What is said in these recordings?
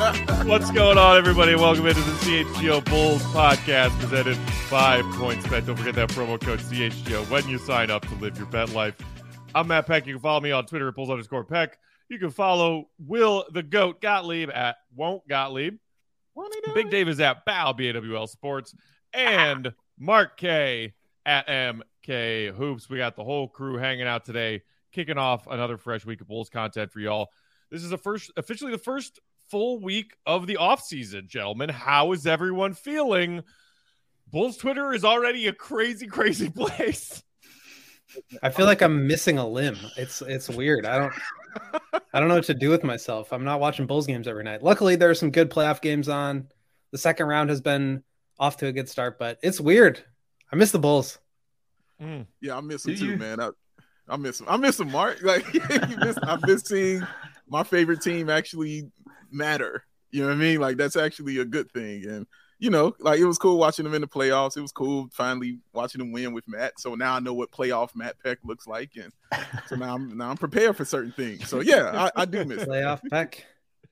What's going on, everybody? Welcome into the CHGO Bulls podcast presented by PointsBet. Don't forget that promo code CHGO when you sign up to live your bet life. I'm Matt Peck. You can follow me on Twitter at Bulls_Peck. You can follow Will the Goat Gottlieb at Won't Gottlieb. Big Dave is at Bow, BAWL Sports. And Mark K at MK Hoops. We got the whole crew hanging out today, kicking off another fresh week of Bulls content for y'all. This is officially the first full week of the offseason, gentlemen. How is everyone feeling? Bulls Twitter is already a crazy, crazy place. I feel like I'm missing a limb. It's weird. I don't know what to do with myself. I'm not watching Bulls games every night. Luckily, there are some good playoff games on. The second round has been off to a good start, but it's weird. I miss the Bulls. Yeah, I miss them too, man. I miss them. I miss them, Mark. Like I miss seeing my favorite team actually matter. You know what I mean? Like that's actually a good thing. And you know, like it was cool watching them in the playoffs. It was cool finally watching them win with Matt. So now I know what playoff Matt Peck looks like, and so now I'm prepared for certain things. So yeah, I do miss playoff Peck.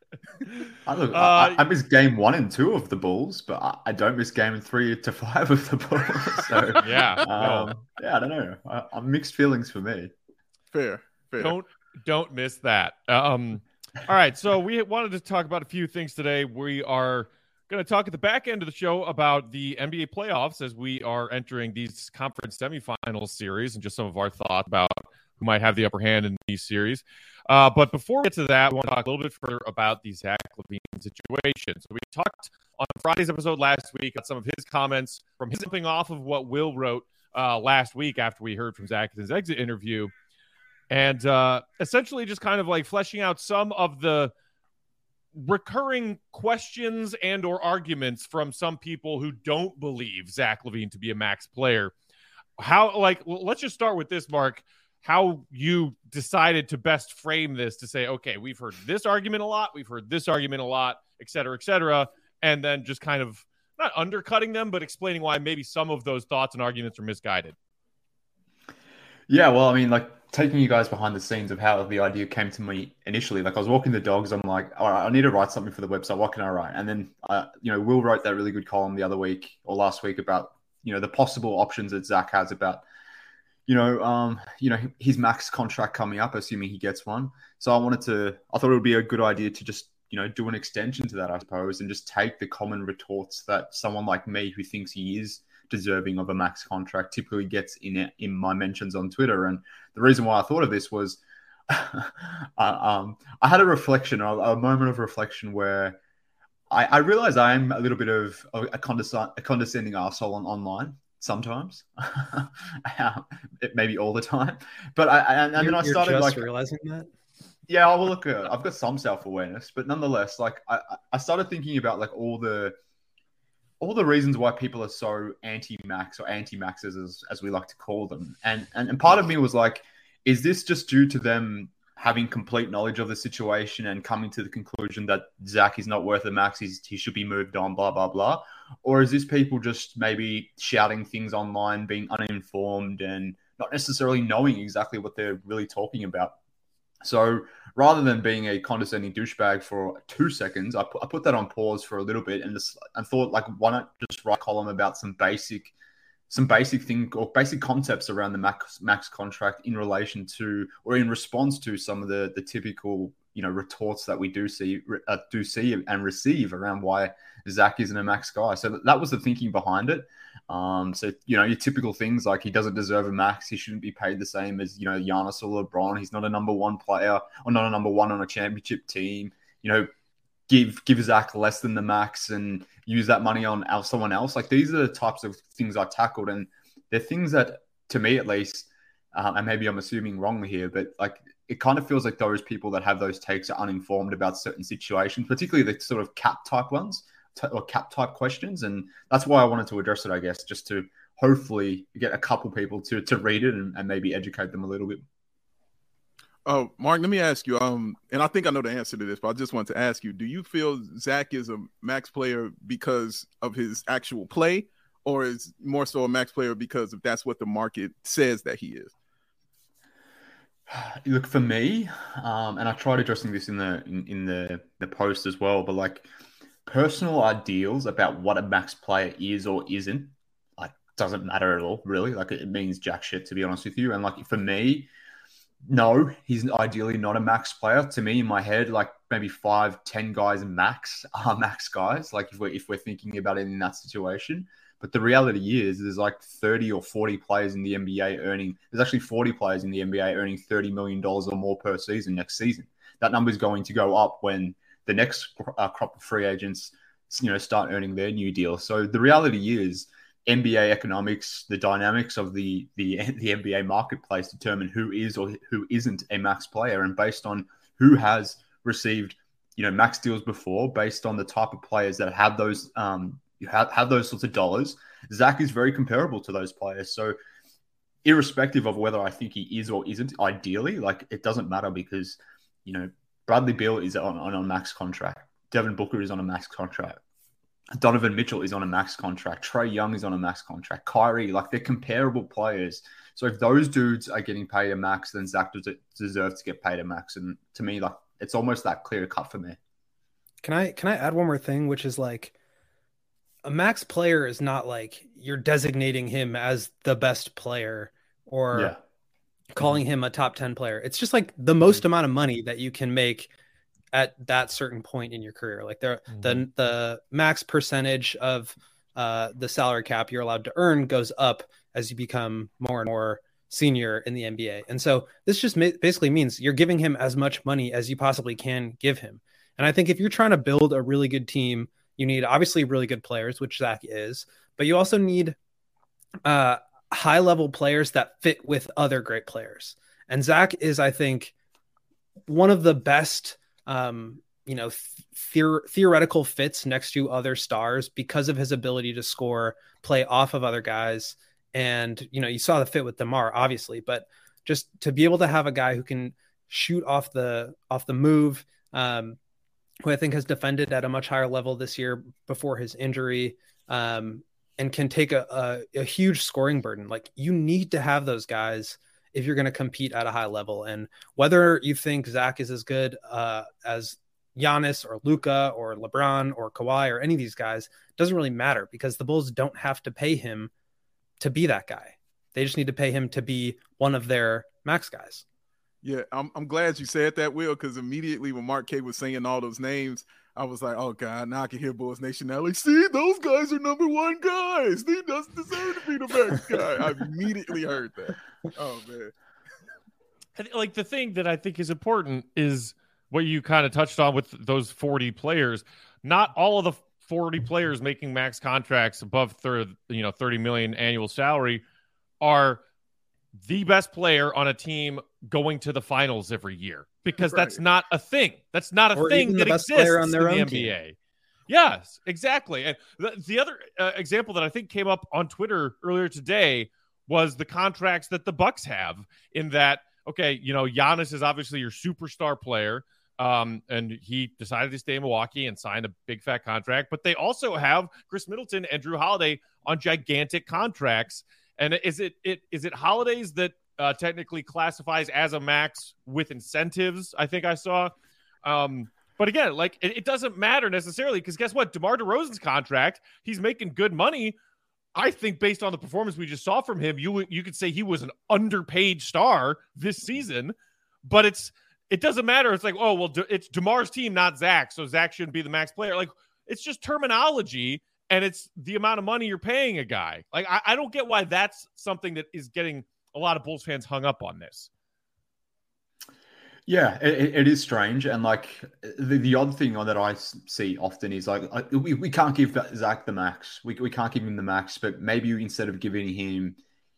I miss game 1 and 2 of the Bulls, but I don't miss game 3 to 5 of the Bulls. So yeah, I don't know. I'm mixed feelings for me. Fair. Don't miss that. All right, so we wanted to talk about a few things today. We are going to talk at the back end of the show about the NBA playoffs as we are entering these conference semifinals series and just some of our thoughts about who might have the upper hand in these series. But before we get to that, we want to talk a little bit further about the Zach LaVine situation. So we talked on Friday's episode last week on some of his comments from his jumping off of what Will wrote last week after we heard from Zach in his exit interview. And essentially just kind of like fleshing out some of the recurring questions and or arguments from some people who don't believe Zach LaVine to be a max player. Let's just start with this, Mark, how you decided to best frame this to say, okay, we've heard this argument a lot, we've heard this argument a lot, et cetera, and then just kind of not undercutting them, but explaining why maybe some of those thoughts and arguments are misguided. Yeah, well, I mean, like taking you guys behind the scenes of how the idea came to me initially, like I was walking the dogs. I'm like, all right, I need to write something for the website. What can I write? And then, Will wrote that really good column the other week or last week about, the possible options that Zach has about, his max contract coming up, assuming he gets one. So I thought it would be a good idea to just, do an extension to that, I suppose, and just take the common retorts that someone like me who thinks he is deserving of a max contract typically gets in my mentions on Twitter. And the reason why I thought of this was I had a moment of reflection where I realized I am a little bit of a condescending arsehole online sometimes, maybe all the time. But then I started realizing that. Yeah, well, look, I've got some self-awareness, but nonetheless, like I started thinking about like all the reasons why people are so anti-max or anti-maxes as we like to call them. And part of me was like, is this just due to them having complete knowledge of the situation and coming to the conclusion that Zach is not worth a max, he should be moved on, blah, blah, blah? Or is this people just maybe shouting things online, being uninformed and not necessarily knowing exactly what they're really talking about? So rather than being a condescending douchebag for 2 seconds, I put that on pause for a little bit and thought, like, why not just write a column about some basic thing or basic concepts around the max contract in relation to or in response to some of the typical retorts that we do see and receive around why Zach isn't a max guy. So that was the thinking behind it. So your typical things like he doesn't deserve a max, he shouldn't be paid the same as Giannis or LeBron. He's not a number one player or not a number one on a championship team. Give Zach less than the max and use that money on someone else. Like these are the types of things I tackled, and they're things that, to me at least, and maybe I'm assuming wrongly here, but like it kind of feels like those people that have those takes are uninformed about certain situations, particularly the sort of cap type ones or cap type questions. And that's why I wanted to address it, I guess, just to hopefully get a couple people to read it and maybe educate them a little bit. Oh, Mark, let me ask you, and I think I know the answer to this, but I just wanted to ask you, do you feel Zach is a max player because of his actual play, or is more so a max player because if that's what the market says that he is? Look, for me, and I tried addressing this in the post as well, but like personal ideals about what a max player is or isn't, like doesn't matter at all, really. Like it means jack shit, to be honest with you. And like for me, no, he's ideally not a max player. To me, in my head, like maybe 5-10 guys max are max guys. Like if we're thinking about it in that situation. But the reality is, there's like 30 or 40 players in the NBA earning. There's actually 40 players in the NBA earning $30 million or more per season next season. That number is going to go up when the next crop of free agents, start earning their new deal. So the reality is, NBA economics, the dynamics of the NBA marketplace determine who is or who isn't a max player, and based on who has received, max deals before, based on the type of players that have those have those sorts of dollars, Zach is very comparable to those players. So irrespective of whether I think he is or isn't, ideally, like it doesn't matter because, Bradley Beal is on a max contract. Devin Booker is on a max contract. Donovan Mitchell is on a max contract. Trae Young is on a max contract. Kyrie, like they're comparable players. So if those dudes are getting paid a max, then Zach deserves to get paid a max. And to me, like it's almost that clear cut for me. Can I add one more thing, which is like a max player is not like you're designating him as the best player or calling him a top 10 player. It's just like the most amount of money that you can make at that certain point in your career. Like the max percentage of the salary cap you're allowed to earn goes up as you become more and more senior in the NBA. And so this just basically means you're giving him as much money as you possibly can give him. And I think if you're trying to build a really good team, you need obviously really good players, which Zach is, but you also need high level players that fit with other great players. And Zach is, I think, one of the best theoretical fits next to other stars because of his ability to score, play off of other guys. And, you saw the fit with DeMar, obviously, but just to be able to have a guy who can shoot off the move, who I think has defended at a much higher level this year before his injury, and can take a huge scoring burden. Like you need to have those guys if you're going to compete at a high level. And whether you think Zach is as good as Giannis or Luka or LeBron or Kawhi or any of these guys, doesn't really matter because the Bulls don't have to pay him to be that guy. They just need to pay him to be one of their max guys. Yeah, I'm glad you said that, Will, because immediately when Mark K was saying all those names, I was like, oh, God, now I can hear Bulls Nation now. Like, see, those guys are number one guys. He doesn't deserve to be the max guy. I immediately heard that. Oh, man. Like, the thing that I think is important is what you kind of touched on with those 40 players. Not all of the 40 players making max contracts above 30 million annual salary are the best player on a team going to the finals every year, because that's not a thing. That's not a thing that exists in the NBA. Team. Yes, exactly. And the other example that I think came up on Twitter earlier today was the contracts that the Bucks have, in that, okay, Giannis is obviously your superstar player. And he decided to stay in Milwaukee and sign a big fat contract, but they also have Chris Middleton and Drew Holiday on gigantic contracts. And is it Holiday's that technically classifies as a max with incentives? I think I saw. But again, like it doesn't matter necessarily, because guess what? DeMar DeRozan's contract, he's making good money. I think based on the performance we just saw from him, you could say he was an underpaid star this season, but it doesn't matter. It's like, oh, well, it's DeMar's team, not Zach, so Zach shouldn't be the max player. Like, it's just terminology, and it's the amount of money you're paying a guy. Like, I don't get why that's something that is getting a lot of Bulls fans hung up on this. Yeah, it is strange. And, like, the odd thing that I see often is, like, we can't give Zach the max. We can't give him the max, but maybe instead of giving him,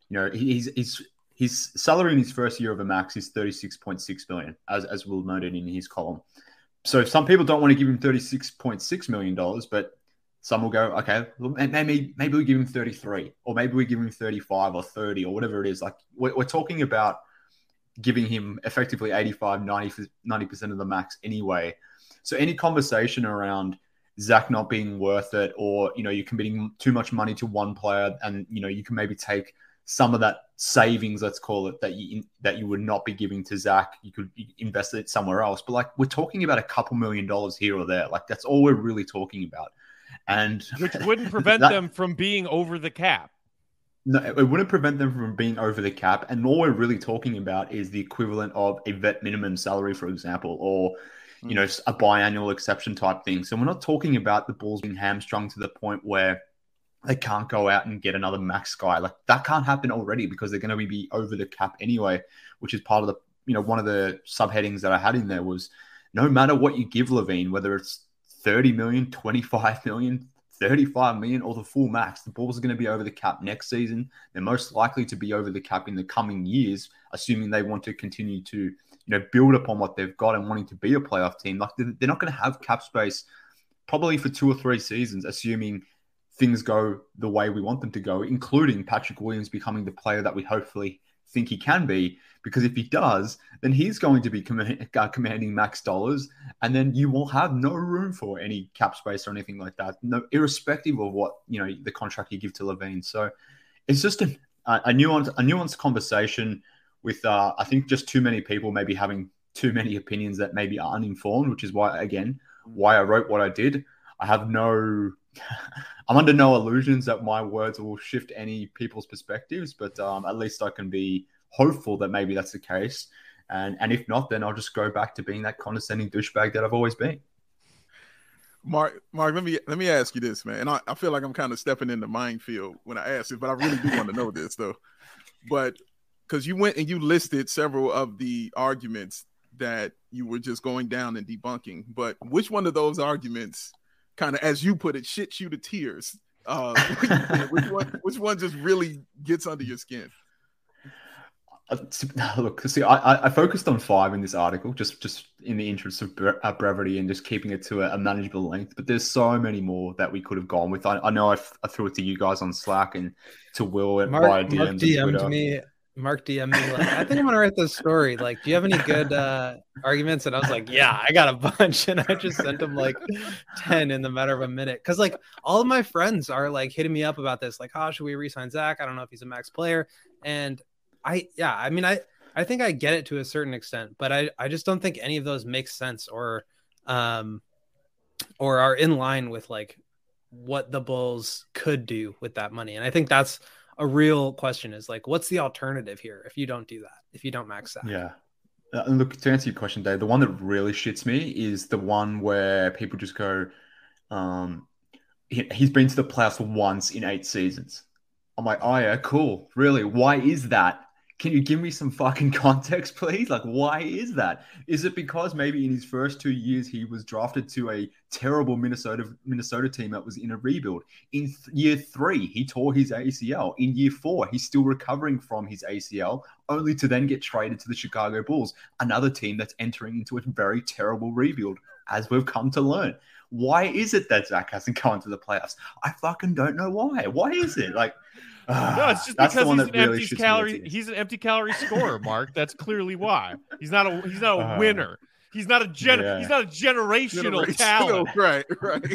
his salary in his first year of a max is $36.6 million, as Will noted in his column. So some people don't want to give him $36.6 million, but some will go, okay, maybe we give him 33, or maybe we give him 35 or 30 or whatever it is. Like we're talking about giving him effectively 85, 90% of the max anyway. So any conversation around Zach not being worth it, or, you're committing too much money to one player and, you can maybe take some of that savings, let's call it, that you would not be giving to Zach, you could invest it somewhere else. But like, we're talking about a couple $1 million here or there. Like, that's all we're really talking about. And which wouldn't prevent them from being over the cap. No, it wouldn't prevent them from being over the cap. And all we're really talking about is the equivalent of a vet minimum salary, for example, or, you know, a biannual exception type thing. So we're not talking about the Bulls being hamstrung to the point where they can't go out and get another max guy. Like, that can't happen already because they're going to be over the cap anyway, which is part of the, you know, one of the subheadings that I had in there was no matter what you give LaVine, whether it's 30 million, 25 million, 35 million or the full max, the Bulls are going to be over the cap next season. They're most likely to be over the cap in the coming years, assuming they want to continue to, you know, build upon what they've got and wanting to be a playoff team. Like, they're not going to have cap space probably for 2 or 3 seasons, assuming things go the way we want them to go, including Patrick Williams becoming the player that we hopefully think he can be. Because if he does, then he's going to be commanding max dollars, and then you will have no room for any cap space or anything like that, no, irrespective of what, you know, the contract you give to LaVine. So it's just a nuanced conversation with, I think, just too many people maybe having too many opinions that maybe are uninformed, which is why I wrote what I did. I'm under no illusions that my words will shift any people's perspectives, but at least I can be hopeful that maybe that's the case. And if not, then I'll just go back to being that condescending douchebag that I've always been. Mark, let me ask you this, man. And I feel like I'm kind of stepping in the minefield when I ask this, but I really do want to know this, though. But because you went and you listed several of the arguments that you were just going down and debunking, but which one of those arguments kind of, as you put it, shits you to tears? Which one just really gets under your skin? Look, see, I focused on 5 in this article, just in the interest of brevity and just keeping it to a manageable length. But there's so many more that we could have gone with. I know I threw it to you guys on Slack and to Will via DMs. Mark DM'd me like, I think I'm gonna write this story. Like, do you have any good arguments? And I was like, yeah, I got a bunch. And I just sent him like 10 in the matter of a minute. Cause like all of my friends are like hitting me up about this. Like, how should we re-sign Zach? I don't know if he's a max player. And I think I get it to a certain extent, but I just don't think any of those make sense or are in line with like what the Bulls could do with that money. And I think that's a real question, is like, what's the alternative here if you don't do that, if you don't max that? Yeah. Look, to answer your question, Dave, the one that really shits me is the one where people just go, he's been to the playoffs once in 8 seasons. I'm like, oh yeah, cool. Really? Why is that? Can you give me some fucking context, please? Like, why is that? Is it because maybe in his first 2 years he was drafted to a terrible Minnesota team that was in a rebuild? In year 3, he tore his ACL. In year 4, he's still recovering from his ACL, only to then get traded to the Chicago Bulls, another team that's entering into a very terrible rebuild, as we've come to learn. Why is it that Zach hasn't gone to the playoffs? I fucking don't know why. Why is it? Like, no, it's just because he's an empty calorie scorer, Mark. That's clearly why. He's not a winner. He's not a generational talent. Right.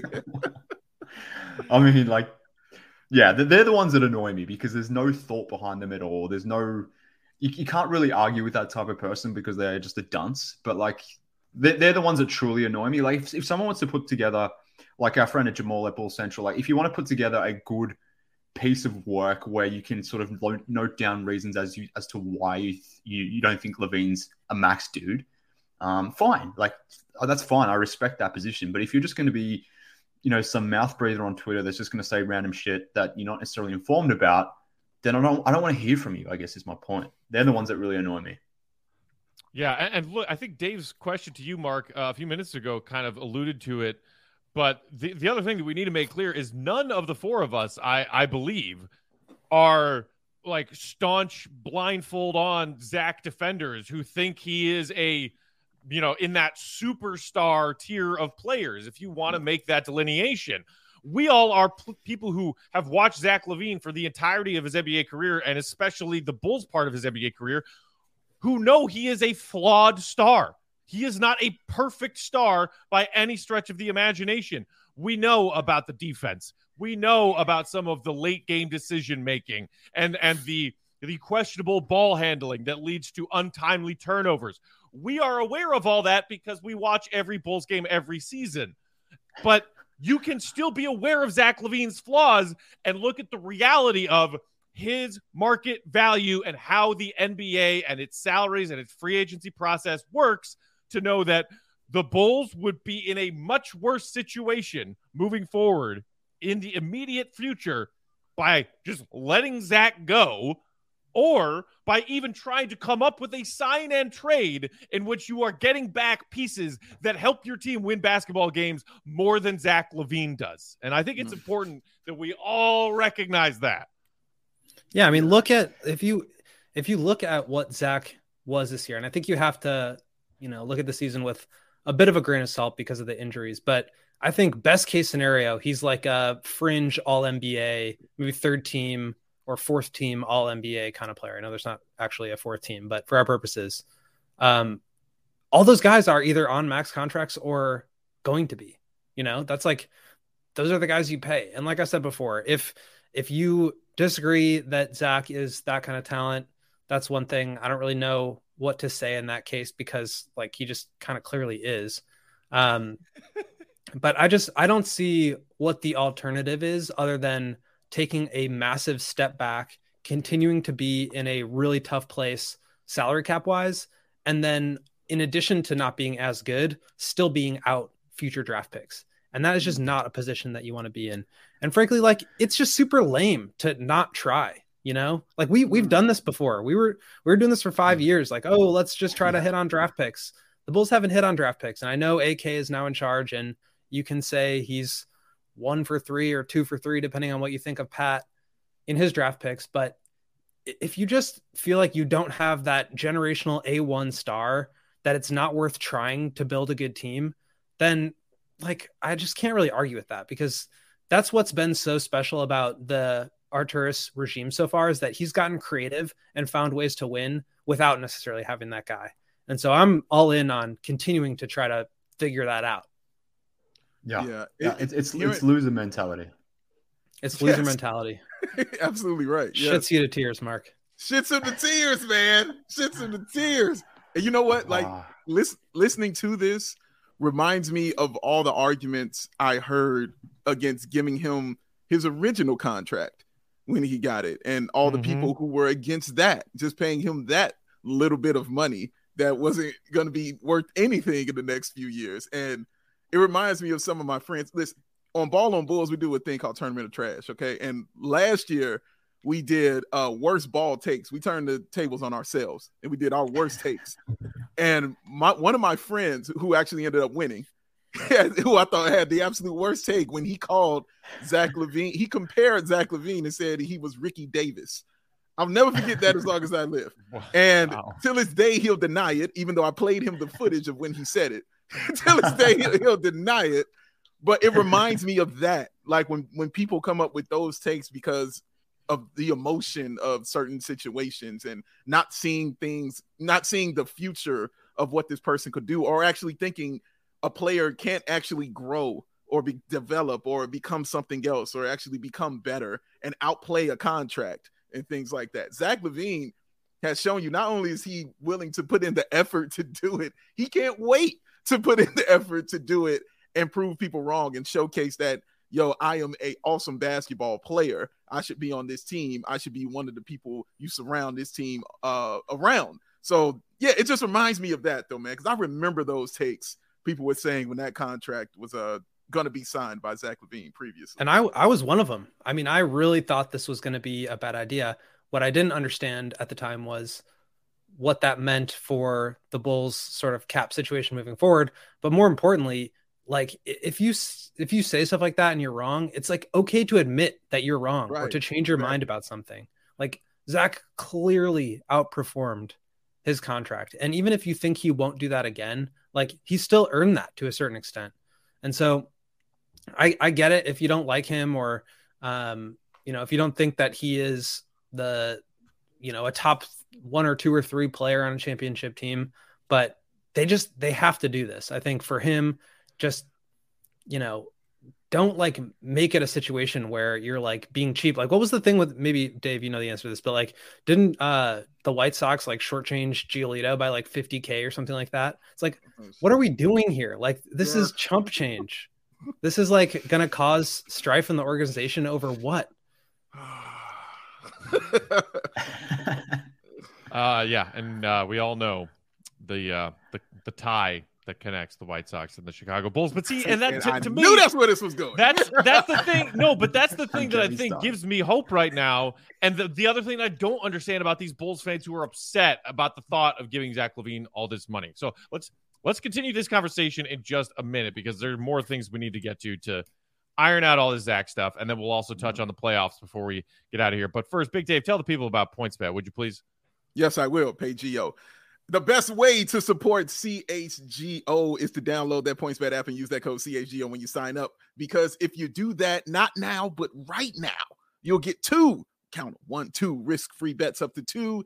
I mean, like, yeah, they're the ones that annoy me because there's no thought behind them at all. There's no, you can't really argue with that type of person because they're just a dunce. But like, they're the ones that truly annoy me. Like, if someone wants to put together, like our friend at Jamal at Bull Central, like if you want to put together a good piece of work where you can sort of note down reasons as to why you don't think LaVine's a max dude, fine. Like, that's fine. I respect that position. But if you're just going to be, you know, some mouth breather on Twitter that's just going to say random shit that you're not necessarily informed about, then I don't want to hear from you, I guess is my point. They're the ones that really annoy me. Yeah, and look, I think Dave's question to you, Mark, a few minutes ago kind of alluded to it. But the other thing that we need to make clear is none of the 4 of us, I believe, are like staunch blindfold on Zach defenders who think he is a, you know, in that superstar tier of players. If you want to make that delineation, we all are people who have watched Zach LaVine for the entirety of his NBA career, and especially the Bulls part of his NBA career, who know he is a flawed star. He is not a perfect star by any stretch of the imagination. We know about the defense. We know about some of the late game decision making and the questionable ball handling that leads to untimely turnovers. We are aware of all that because we watch every Bulls game every season. But you can still be aware of Zach LaVine's flaws and look at the reality of his market value and how the NBA and its salaries and its free agency process works to know that the Bulls would be in a much worse situation moving forward in the immediate future by just letting Zach go, or by even trying to come up with a sign and trade in which you are getting back pieces that help your team win basketball games more than Zach LaVine does. And I think it's important that we all recognize that. Yeah, I mean, look at if you look at what Zach was this year, and I think you have to, look at the season with a bit of a grain of salt because of the injuries, but I think best case scenario, he's like a fringe all NBA, maybe third team or fourth team all NBA kind of player. I know there's not actually a fourth team, but for our purposes, all those guys are either on max contracts or going to be, that's like, those are the guys you pay. And like I said before, if you disagree that Zach is that kind of talent, that's one thing. I don't really know what to say in that case because like he just kind of clearly is. But I don't see what the alternative is other than taking a massive step back, continuing to be in a really tough place salary cap wise. And then in addition to not being as good, still being out future draft picks. And that is just not a position that you want to be in. And frankly, like, it's just super lame to not try, like we've done this before. We were doing this for 5 years. Like, oh, let's just try to hit on draft picks. The Bulls haven't hit on draft picks. And I know AK is now in charge, and you can say he's 1 for 3 or 2 for 3, depending on what you think of Pat in his draft picks. But if you just feel like you don't have that generational A1 star, that it's not worth trying to build a good team, then like, I just can't really argue with that, because that's what's been so special about the Arturas regime so far, is that he's gotten creative and found ways to win without necessarily having that guy. And so I'm all in on continuing to try to figure that out. Yeah. It's loser mentality. It's loser mentality. Absolutely right. Shits you to tears, Mark. Shits him to tears, man. Shits him to tears. And you know what? Like, listening to this reminds me of all the arguments I heard against giving him his original contract when he got it, and all the people who were against that, just paying him that little bit of money that wasn't going to be worth anything in the next few years. And it reminds me of some of my friends. Listen, on Ball on Bulls, we do a thing called Tournament of Trash, okay? And last year, we did worst ball takes. We turned the tables on ourselves, and we did our worst takes. And one of my friends who actually ended up winning, who I thought had the absolute worst take, when he called Zach LaVine, he compared Zach LaVine and said he was Ricky Davis. I'll never forget that as long as I live. And till this day, he'll deny it, even though I played him the footage of when he said it. Till this day, he'll deny it. But it reminds me of that. Like when people come up with those takes because of the emotion of certain situations and not seeing the future of what this person could do, or actually thinking a player can't actually grow or develop or become something else, or actually become better and outplay a contract and things like that. Zach LaVine has shown you, not only is he willing to put in the effort to do it, he can't wait to put in the effort to do it and prove people wrong and showcase that, yo, I am an awesome basketball player. I should be on this team. I should be one of the people you surround this team around. So, yeah, it just reminds me of that, though, man, because I remember those takes people were saying when that contract was going to be signed by Zach LaVine previously. And I was one of them. I mean, I really thought this was going to be a bad idea. What I didn't understand at the time was what that meant for the Bulls' sort of cap situation moving forward. But more importantly, like, if you say stuff like that and you're wrong, it's like okay to admit that you're wrong, or to change your mind about something. Like, Zach clearly outperformed his contract. And even if you think he won't do that again, like, he still earned that to a certain extent. And so I get it if you don't like him, or, if you don't think that he is a top 1 or 2 or 3 player on a championship team, but they have to do this. I think for him, just, don't like make it a situation where you're like being cheap. Like, what was the thing with, maybe Dave, you know the answer to this, but like, didn't the White Sox like shortchange Giolito by like $50K or something like that? It's like, what are we doing here? Like, this is chump change. This is like going to cause strife in the organization over what? Yeah, and we all know the tie that connects the White Sox and the Chicago Bulls. But see, and that to me, knew that's where this was going. That's the thing. No, but that's the thing that I think gives me hope right now. And the other thing I don't understand about these Bulls fans who are upset about the thought of giving Zach LaVine all this money. So let's continue this conversation in just a minute, because there are more things we need to get to iron out all this Zach stuff, and then we'll also touch on the playoffs before we get out of here. But first, Big Dave, tell the people about PointsBet, would you please? Yes, I will. PayGO. The best way to support CHGO is to download that PointsBet app and use that code CHGO when you sign up. Because if you do that, not now, but right now, you'll get two risk-free bets up to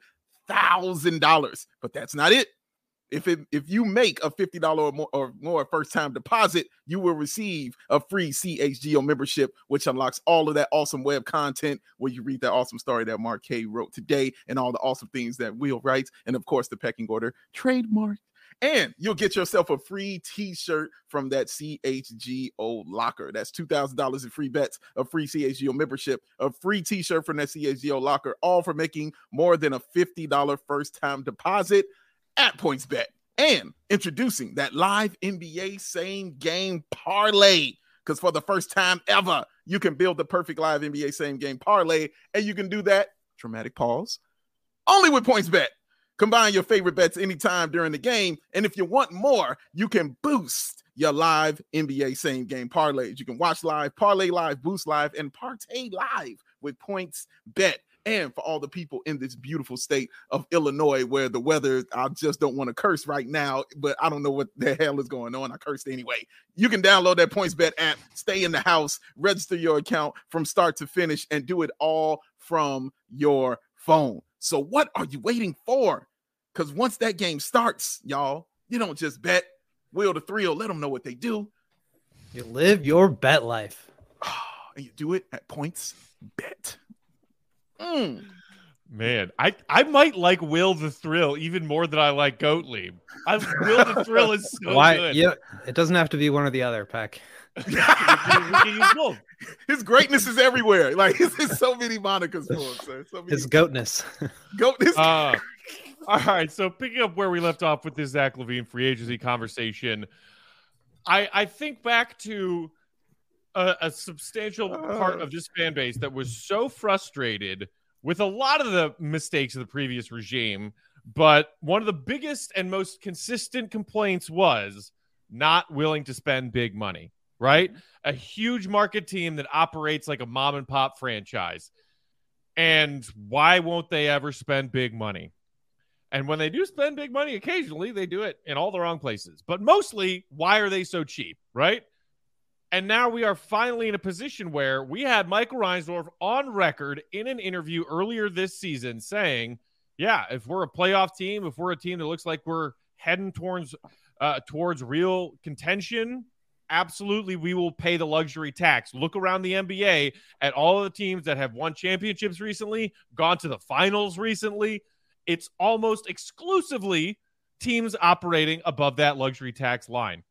$2,000. But that's not it. If you make a $50 or more first-time deposit, you will receive a free CHGO membership, which unlocks all of that awesome web content where you read that awesome story that Mark K wrote today and all the awesome things that Will writes, and, of course, the pecking order trademark. And you'll get yourself a free T-shirt from that CHGO locker. That's $2,000 in free bets, a free CHGO membership, a free T-shirt from that CHGO locker, all for making more than a $50 first-time deposit at PointsBet. And introducing that live NBA same game parlay, because for the first time ever, you can build the perfect live NBA same game parlay, and you can do that, dramatic pause, only with PointsBet. Combine your favorite bets anytime during the game, and if you want more, you can boost your live NBA same game parlays. You can watch live, parlay live, boost live, and partay live with PointsBet. And for all the people in this beautiful state of Illinois, where the weather, I just don't want to curse right now, but I don't know what the hell is going on. I cursed anyway. You can download that PointsBet app, stay in the house, register your account from start to finish, and do it all from your phone. So what are you waiting for? Because once that game starts, y'all, you don't just bet. Will the thrill, let them know what they do. You live your bet life. And you do it at PointsBet. Man, I might like Will the Thrill even more than I like Gottlieb. Will the Thrill is so good. Yeah, it doesn't have to be one or the other, Peck. we can use both. His greatness is everywhere. Like, there's so many monikers for him, sir. His goatness. Goatness. All right, so picking up where we left off with this Zach LaVine free agency conversation, I think back to a substantial part of this fan base that was so frustrated with a lot of the mistakes of the previous regime, but one of the biggest and most consistent complaints was not willing to spend big money, right? A huge market team that operates like a mom and pop franchise. And why won't they ever spend big money? And when they do spend big money, occasionally they do it in all the wrong places. But mostly, why are they so cheap, right? And now we are finally in a position where we had Michael Reinsdorf on record in an interview earlier this season saying, yeah, if we're a playoff team, if we're a team that looks like we're heading towards real contention, absolutely we will pay the luxury tax. Look around the NBA at all of the teams that have won championships recently, gone to the finals recently. It's almost exclusively teams operating above that luxury tax line.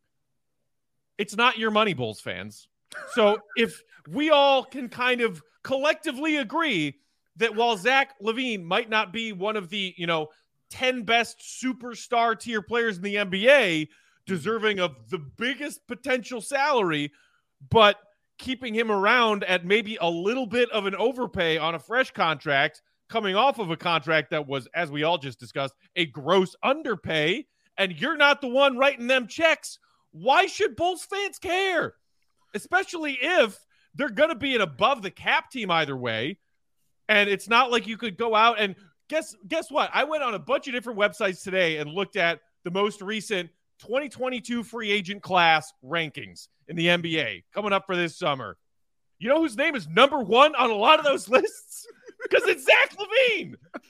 It's not your money, Bulls fans. So if we all can kind of collectively agree that while Zach LaVine might not be one of the, 10 best superstar tier players in the NBA, deserving of the biggest potential salary, but keeping him around at maybe a little bit of an overpay on a fresh contract, coming off of a contract that was, as we all just discussed, a gross underpay, and you're not the one writing them checks, why should Bulls fans care? Especially if they're going to be an above the cap team either way. And it's not like you could go out and guess what? I went on a bunch of different websites today and looked at the most recent 2022 free agent class rankings in the NBA coming up for this summer. You know whose name is number one on a lot of those lists? Because it's Zach LaVine.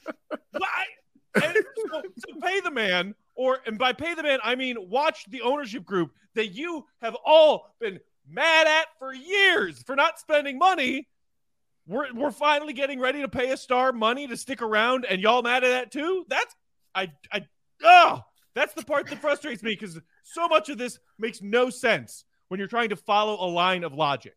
So pay the man, and by pay the man, I mean watch the ownership group that you have all been mad at for years for not spending money. We're finally getting ready to pay a star money to stick around, and y'all mad at that too? That's the part that frustrates me, because so much of this makes no sense when you're trying to follow a line of logic.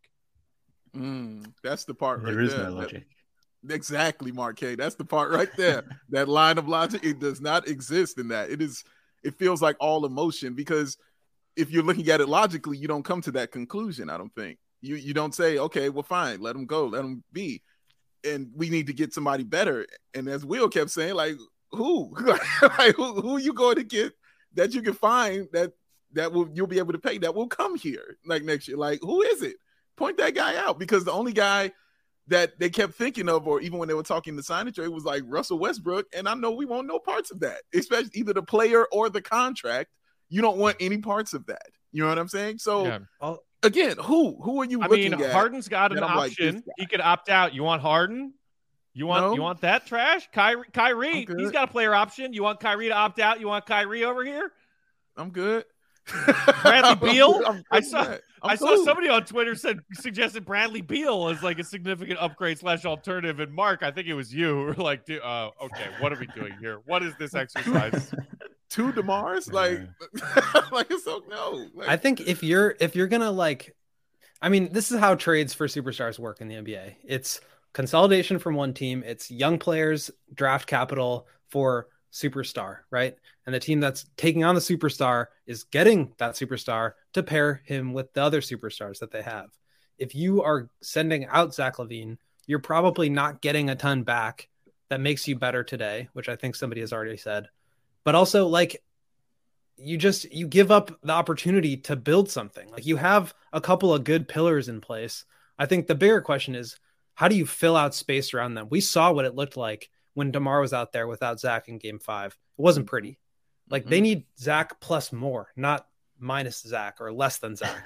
That's the part there is no logic. Exactly, Mark K. That's the part right there. That line of logic, it does not exist in that. It feels like all emotion, because if you're looking at it logically, you don't come to that conclusion. I don't think you don't say, okay, well, fine, let him go, let him be, and we need to get somebody better. And as Will kept saying, like, who, like, who are you going to get that you can find that you'll be able to pay, that will come here like next year? Like, who is it? Point that guy out, because the only guy that they kept thinking of, or even when they were talking the sign and trade, was like Russell Westbrook. And I know we want no parts of that, especially either the player or the contract. You don't want any parts of that. You know what I'm saying? So again, who are you looking at? Harden's got an option. Like, he could opt out. You want Harden? You want that trash? Kyrie, he's got a player option. You want Kyrie to opt out? You want Kyrie over here? I'm good. Bradley Beal? I saw somebody on Twitter suggested Bradley Beal as like a significant upgrade / alternative. And Mark, I think it was you who were like, okay, what are we doing here? What is this exercise? 2 DeMars? Like so no. Like, I think if you're gonna, like, I mean, this is how trades for superstars work in the NBA. It's consolidation from one team. It's young players, draft capital for superstar, right? And the team that's taking on the superstar is getting that superstar to pair him with the other superstars that they have. If you are sending out Zach LaVine, you're probably not getting a ton back that makes you better today, which I think somebody has already said. But also, like, you give up the opportunity to build something. Like, you have a couple of good pillars in place. I think the bigger question is, how do you fill out space around them? We saw what it looked like when DeMar was out there without Zach in Game 5. It wasn't pretty. Like, they need Zach plus more, not minus Zach or less than Zach.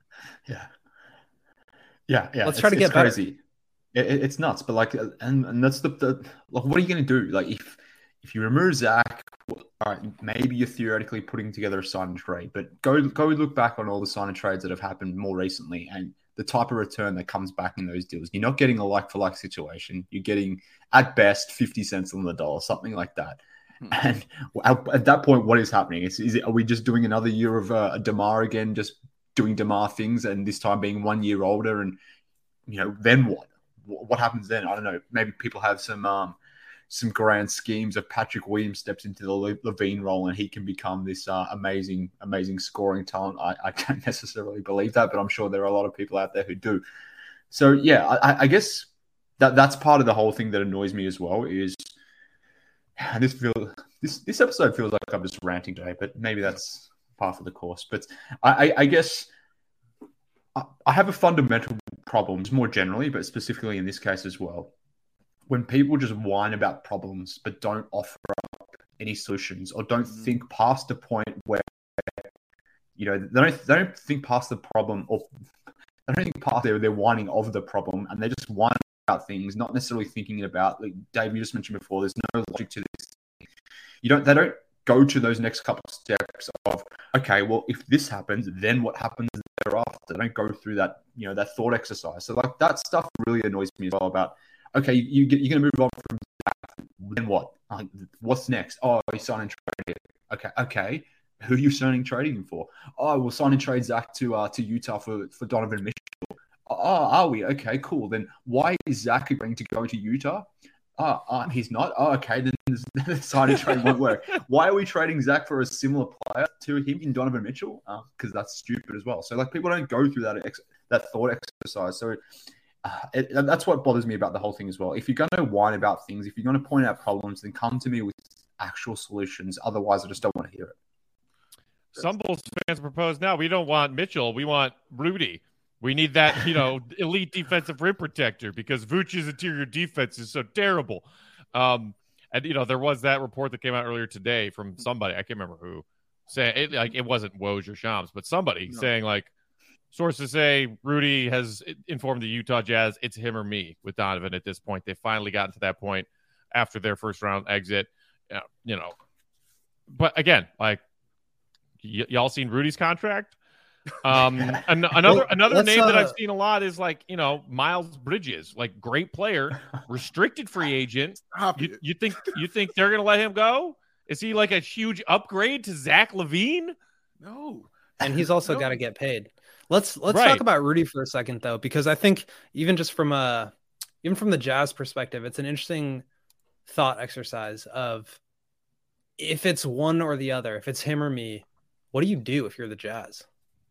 Yeah. Let's try to get crazy. It's nuts, but like, and that's the like, what are you going to do? Like, if you remove Zach, all right, maybe you're theoretically putting together a sign and trade, but go look back on all the sign and trades that have happened more recently, and the type of return that comes back in those deals. You're not getting a like-for-like situation. You're getting, at best, 50 cents on the dollar, something like that. And at that point, what is happening? Are we just doing another year of a DeMar again, just doing DeMar things, and this time being 1 year older? And, then what? What happens then? I don't know. Maybe people have some grand schemes of Patrick Williams steps into the LaVine role and he can become this amazing scoring talent. I don't necessarily believe that, but I'm sure there are a lot of people out there who do. So yeah, I guess that's part of the whole thing that annoys me as well. Is this episode feels like I'm just ranting today, but maybe that's par for the course. But I guess I have a fundamental problem more generally, but specifically in this case as well. When people just whine about problems but don't offer up any solutions, or don't think past the point where they don't think past the problem, or they don't think past their whining of the problem, and they just whine about things, not necessarily thinking about, like Dave, you just mentioned before, there's no logic to this thing. They don't go to those next couple of steps of, okay, well, if this happens, then what happens thereafter? They don't go through that, that thought exercise. So like that stuff really annoys me as well about, okay, you're going to move on from that, then what? Like, what's next? Oh, you're signing trade. Okay. Who are you signing trading him for? Oh, we'll sign and trade Zach to Utah for Donovan Mitchell. Oh, are we? Okay, cool. Then why is Zach going to go to Utah? He's not. Oh, okay, then the sign and trade won't work. Why are we trading Zach for a similar player to him in Donovan Mitchell? Because that's stupid as well. So like, people don't go through that thought exercise. So that's what bothers me about the whole thing as well. If you're going to whine about things, if you're going to point out problems, then come to me with actual solutions. Otherwise, I just don't want to hear it. Some Bulls fans propose now, we don't want Mitchell, we want Rudy. We need that, elite defensive rim protector because Vooch's interior defense is so terrible. And there was that report that came out earlier today from somebody, I can't remember who, saying it wasn't Woj or Shams, but somebody saying like, sources say Rudy has informed the Utah Jazz it's him or me with Donovan at this point. They finally gotten to that point after their first round exit, But again, like, y'all seen Rudy's contract? Another name that I've seen a lot is like, Miles Bridges, like great player, restricted free agent. You think they're gonna let him go? Is he like a huge upgrade to Zach LaVine? No. And he's also got to get paid. Let's talk about Rudy for a second though, because I think even from the Jazz perspective, it's an interesting thought exercise of if it's one or the other, if it's him or me, what do you do if you're the Jazz?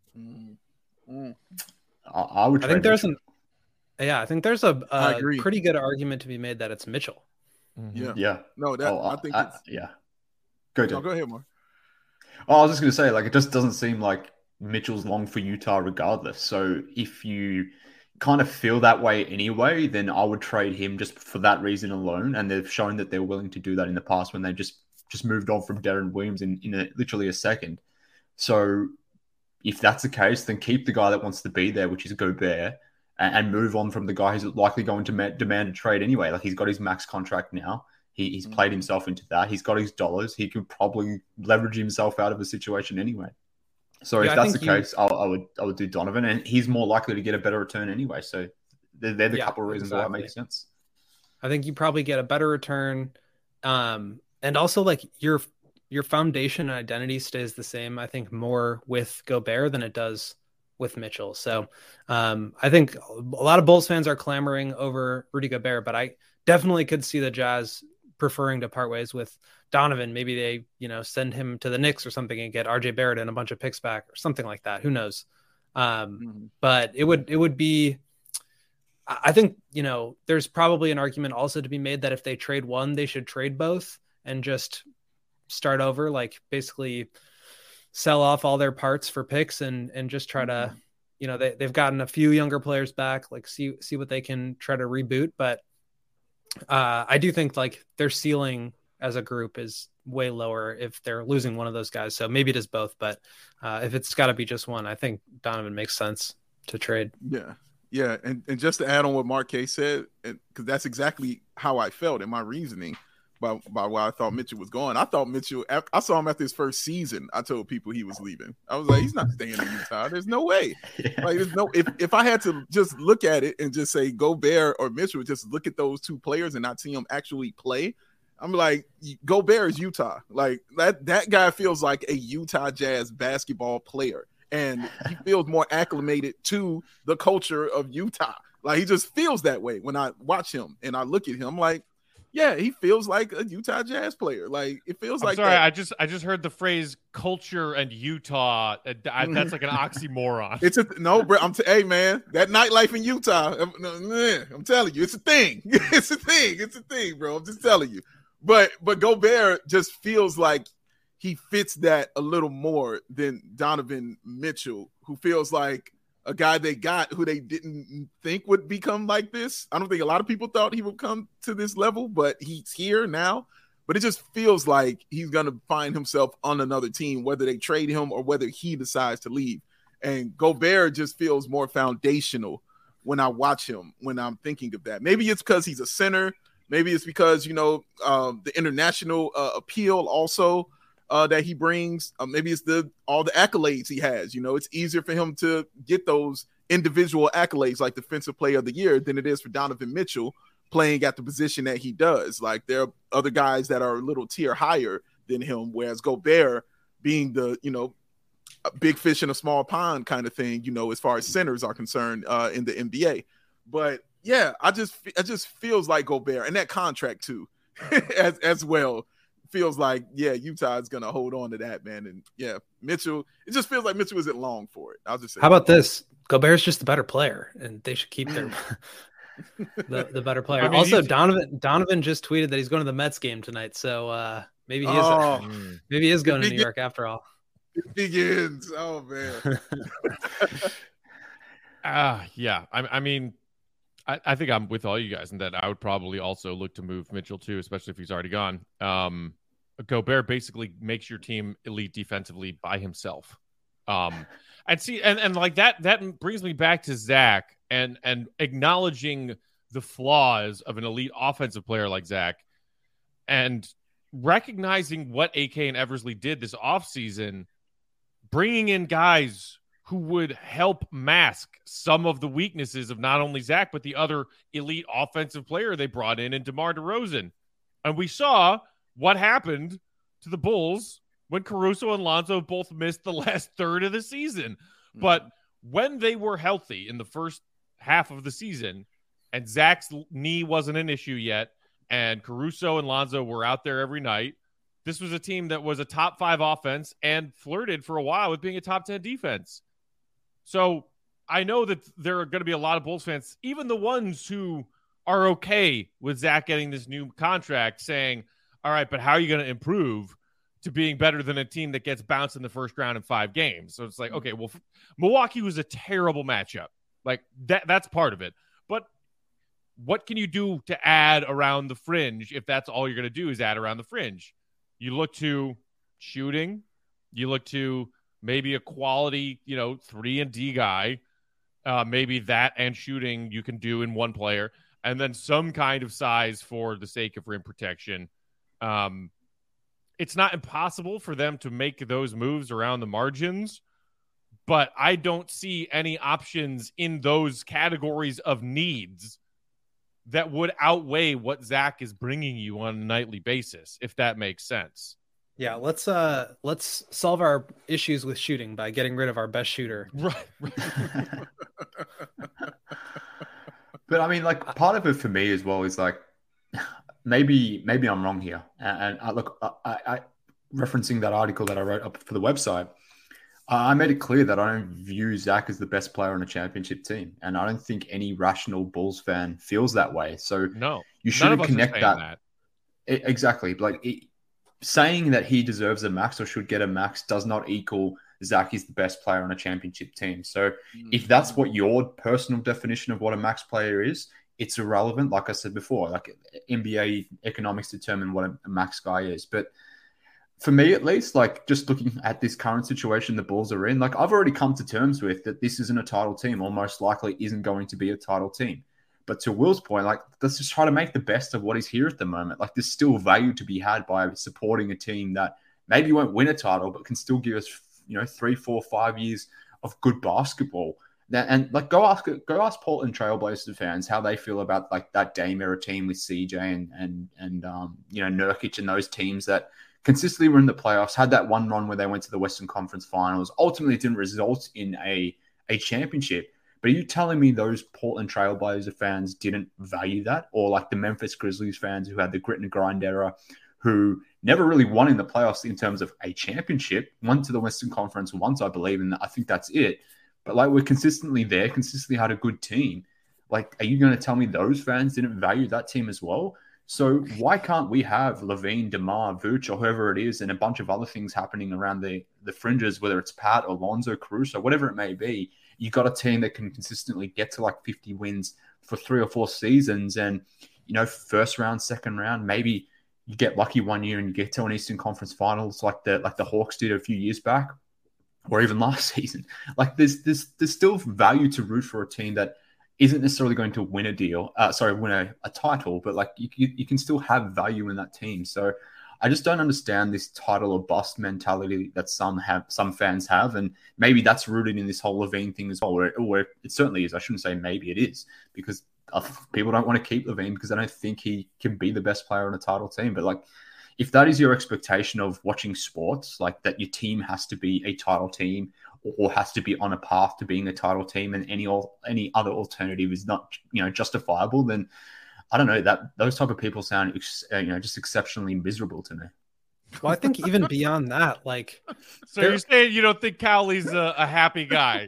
I would. I think there's a pretty good argument to be made that it's Mitchell. Mm-hmm. Yeah. No, I think it's... yeah. Go ahead, Mark. Oh, I was just going to say, like, it just doesn't seem like Mitchell's long for Utah regardless. So if you kind of feel that way anyway, then I would trade him just for that reason alone. And they've shown that they're willing to do that in the past when they just moved on from Deron Williams in literally a second. So if that's the case, then keep the guy that wants to be there, which is Gobert, and move on from the guy who's likely going to demand a trade anyway. Like, he's got his max contract now. He's played himself into that. He's got his dollars. He could probably leverage himself out of a situation anyway. So if that's the case, I would do Donovan, and he's more likely to get a better return anyway. So they're the couple of reasons why it makes sense. I think you probably get a better return, and also like your foundation and identity stays the same. I think more with Gobert than it does with Mitchell. So I think a lot of Bulls fans are clamoring over Rudy Gobert, but I definitely could see the Jazz preferring to part ways with Donovan. Maybe they, send him to the Knicks or something and get RJ Barrett and a bunch of picks back or something like that. Who knows? But it would be, I think, there's probably an argument also to be made that if they trade one, they should trade both and just start over, like basically sell off all their parts for picks and just try to, they've gotten a few younger players back, like see what they can try to reboot. But I do think like their ceiling as a group is way lower if they're losing one of those guys. So maybe it is both, but if it's got to be just one, I think Donovan makes sense to trade. Yeah. Yeah. And just to add on what Mark K said, because that's exactly how I felt in my reasoning by why I thought Mitchell was going. I thought Mitchell, I saw him after his first season. I told people he was leaving. I was like, he's not staying in Utah. There's no way. Yeah. Like, there's no, if I had to just look at it and just say Gobert or Mitchell, just look at those two players and not see them actually play, I'm like, Gobert is Utah. Like that guy feels like a Utah Jazz basketball player. And he feels more acclimated to the culture of Utah. Like, he just feels that way when I watch him and I look at him. I'm like, yeah, he feels like a Utah Jazz player. Like, it feels like. Sorry, that. I just heard the phrase "culture" and Utah. That's like an oxymoron. Bro. Hey, man, that nightlife in Utah. I'm telling you, it's a thing. It's a thing, bro. I'm just telling you. But Gobert just feels like he fits that a little more than Donovan Mitchell, who feels like a guy they got who they didn't think would become like this. I don't think a lot of people thought he would come to this level, but he's here now. But it just feels like he's going to find himself on another team, whether they trade him or whether he decides to leave. And Gobert just feels more foundational when I watch him, when I'm thinking of that. Maybe it's because he's a center. Maybe it's because, the international appeal also that he brings. Maybe it's all the accolades he has. It's easier for him to get those individual accolades like Defensive Player of the Year than it is for Donovan Mitchell playing at the position that he does. Like, there are other guys that are a little tier higher than him, whereas Gobert being the, a big fish in a small pond kind of thing, as far as centers are concerned in the NBA. But yeah, it just feels like Gobert, and that contract too, as well. Feels like, yeah, Utah is going to hold on to that, man. And yeah, Mitchell, it just feels like Mitchell isn't long for it. I'll just say. How about this? Gobert's just the better player, and they should keep their the better player. I mean, also, Donovan just tweeted that he's going to the Mets game tonight, so maybe he is going to New York after all. It begins. Oh man. Yeah. I mean, I think I'm with all you guys in that I would probably also look to move Mitchell too, especially if he's already gone. Gobert basically makes your team elite defensively by himself. And like that brings me back to Zach and acknowledging the flaws of an elite offensive player like Zach and recognizing what AK and Eversley did this offseason, bringing in guys who would help mask some of the weaknesses of not only Zach, but the other elite offensive player they brought in DeMar DeRozan. And we saw what happened to the Bulls when Caruso and Lonzo both missed the last third of the season. But when they were healthy in the first half of the season and Zach's knee wasn't an issue yet and Caruso and Lonzo were out there every night, this was a team that was a top 5 offense and flirted for a while with being a top 10 defense. So I know that there are going to be a lot of Bulls fans, even the ones who are okay with Zach getting this new contract, saying, all right, but how are you going to improve to being better than a team that gets bounced in the first round in 5 games? So it's like, okay, well, Milwaukee was a terrible matchup. Like that's part of it. But what can you do to add around the fringe if that's all you're going to do is add around the fringe? You look to shooting. You look to maybe a quality, 3-and-D guy. Maybe that and shooting you can do in one player. And then some kind of size for the sake of rim protection. It's not impossible for them to make those moves around the margins, but I don't see any options in those categories of needs that would outweigh what Zach is bringing you on a nightly basis, if that makes sense. Yeah, let's solve our issues with shooting by getting rid of our best shooter. Right. But I mean, like, part of it for me as well is like, maybe I'm wrong here. And I referencing that article that I wrote up for the website, I made it clear that I don't view Zach as the best player on a championship team. And I don't think any rational Bulls fan feels that way. So no, you shouldn't connect that. Exactly. Like saying that he deserves a max or should get a max does not equal Zach is the best player on a championship team. So if that's what your personal definition of what a max player is, it's irrelevant. Like I said before, like NBA economics determine what a max guy is. But for me, at least, like just looking at this current situation the Bulls are in, like I've already come to terms with that this isn't a title team or most likely isn't going to be a title team. But to Will's point, like let's just try to make the best of what is here at the moment. Like there's still value to be had by supporting a team that maybe won't win a title, but can still give us, 3, 4, 5 years of good basketball. And like go ask Portland Trailblazers fans how they feel about like that Dame era team with CJ and Nurkic and those teams that consistently were in the playoffs, had that one run where they went to the Western Conference Finals, ultimately didn't result in a championship. But are you telling me those Portland Trailblazer fans didn't value that? Or like the Memphis Grizzlies fans who had the grit and grind era, who never really won in the playoffs in terms of a championship, won to the Western Conference once, I believe, and I think that's it. But like we're consistently there, consistently had a good team. Like, are you going to tell me those fans didn't value that team as well? So why can't we have Levine, DeMar, Vooch, or whoever it is, and a bunch of other things happening around the fringes, whether it's Pat, Alonzo, Caruso, whatever it may be? You got a team that can consistently get to like 50 wins for 3 or 4 seasons, and first round, second round, maybe you get lucky one year and you get to an Eastern Conference Finals like the Hawks did a few years back, or even last season. Like there's still value to root for a team that isn't necessarily going to win win a title, but like you can still have value in that team. So I just don't understand this title or bust mentality that some fans have, and maybe that's rooted in this whole Levine thing as well, or it certainly is. I shouldn't say maybe it is, because people don't want to keep Levine because they don't think he can be the best player on a title team. But like, if that is your expectation of watching sports, like that your team has to be a title team or has to be on a path to being a title team, and any other alternative is not justifiable, then I don't know, that those type of people sound just exceptionally miserable to me. Well, I think even beyond that, like, so you're saying you don't think Cowley's a happy guy?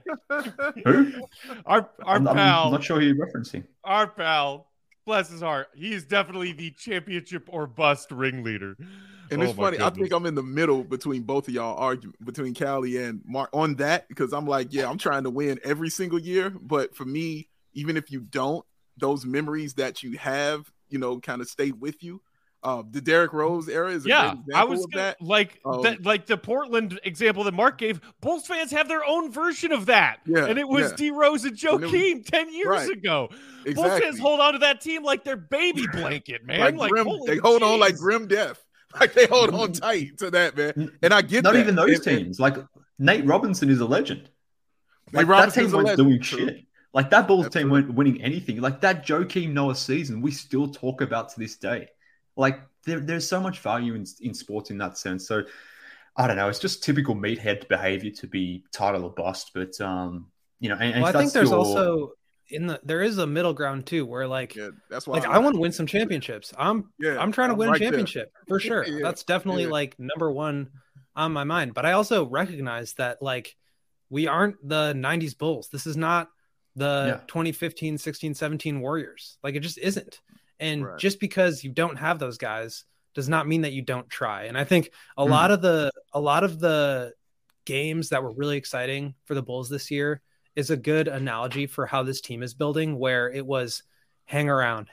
Who? Our pal. I'm not sure who you're referencing. Our pal, bless his heart, he is definitely the championship or bust ringleader. And it's funny, I think I'm in the middle between both of y'all argument, between Callie and Mark on that, because I'm like, yeah, I'm trying to win every single year. But for me, even if you don't, those memories that you have, kind of stay with you. The Derrick Rose era is a great example of that. Like the Portland example that Mark gave, Bulls fans have their own version of that. Yeah, and it was D Rose and Joakim 10 years ago. Exactly. Bulls fans hold on to that team like their baby blanket, man. They hold on like grim death. Like they hold on tight to that, man. And I get not that. Even those teams. Like Nate Robinson is a legend. Like, that team weren't doing shit. Like, that Bulls team weren't winning anything. Like, that Joakim Noah season, we still talk about to this day. Like, there's so much value in sports in that sense. So, I don't know. It's just typical meathead behavior to be title or bust. But, you know, and I think there's also there is a middle ground too, where that's why I want to win some championships. I'm trying to win a championship for sure. Yeah, that's definitely like number one on my mind. But I also recognize that like we aren't the 90s Bulls. This is not the 2015, 16, 17 Warriors. Like, it just isn't. And just because you don't have those guys does not mean that you don't try. And I think a lot of the games that were really exciting for the Bulls this year is a good analogy for how this team is building, where it was hang around,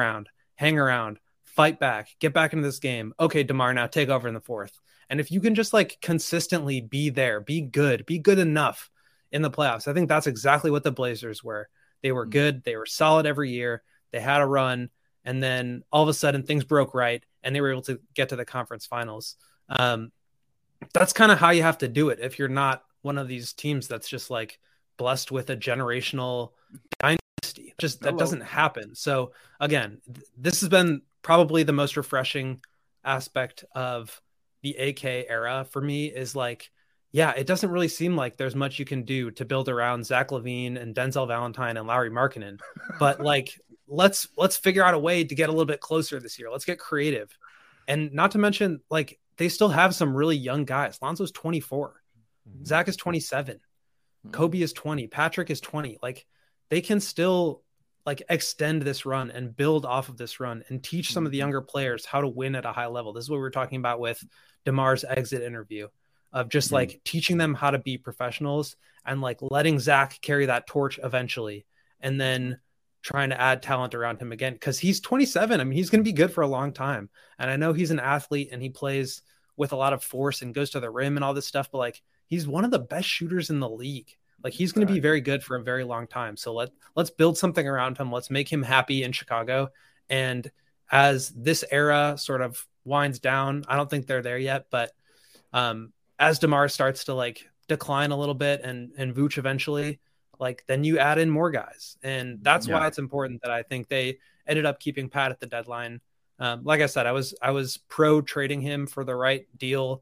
fight back, get back into this game. Okay, DeMar, now take over in the fourth. And if you can just like consistently be there, be good enough in the playoffs, I think that's exactly what the Blazers were. They were good. They were solid every year. They had a run. And then all of a sudden things broke right and they were able to get to the conference finals. That's kind of how you have to do it. If you're not one of these teams that's just like blessed with a generational dynasty, that doesn't happen. So again, this has been probably the most refreshing aspect of the AK era for me, is like, it doesn't really seem like there's much you can do to build around Zach LaVine and Denzel Valentine and Lauri Markkanen, but like, let's figure out a way to get a little bit closer this year. Let's get creative. And not to mention, like, they still have some really young guys. Lonzo's 24. Zach is 27. Kobe is 20. Patrick is 20. Like, they can still like extend this run and build off of this run and teach some of the younger players how to win at a high level. This is what we were talking about with DeMar's exit interview, of just like teaching them how to be professionals and like letting Zach carry that torch eventually. And then trying to add talent around him again, because he's 27. I mean, he's going to be good for a long time. And I know he's an athlete and he plays with a lot of force and goes to the rim and all this stuff, but like, he's one of the best shooters in the league. Like, he's going to be very good for a very long time. So let's build something around him. Let's make him happy in Chicago. And as this era sort of winds down, I don't think they're there yet, but as DeMar starts to like decline a little bit and Vooch eventually, like, then you add in more guys. And that's why it's important that I think they ended up keeping Pat at the deadline. Like I said, I was pro trading him for the right deal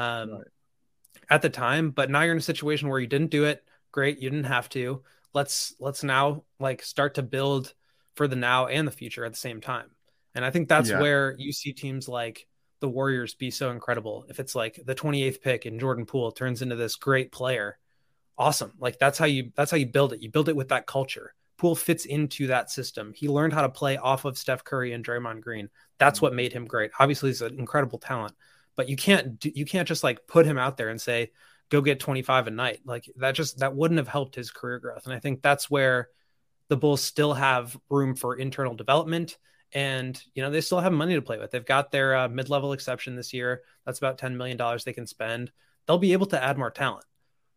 at the time, but now you're in a situation where you didn't do it. Great. You didn't have to. Let's now like start to build for the now and the future at the same time. And I think that's where you see teams like the Warriors be so incredible. If it's like the 28th pick and Jordan Poole turns into this great player, awesome. Like, that's how you build it. You build it with that culture. Poole fits into that system. He learned how to play off of Steph Curry and Draymond Green. That's what made him great. Obviously, he's an incredible talent, but you can't just like put him out there and say, go get 25 a night. Like, that wouldn't have helped his career growth. And I think that's where the Bulls still have room for internal development. And, you know, they still have money to play with. They've got their mid-level exception this year. That's about $10 million they can spend. They'll be able to add more talent.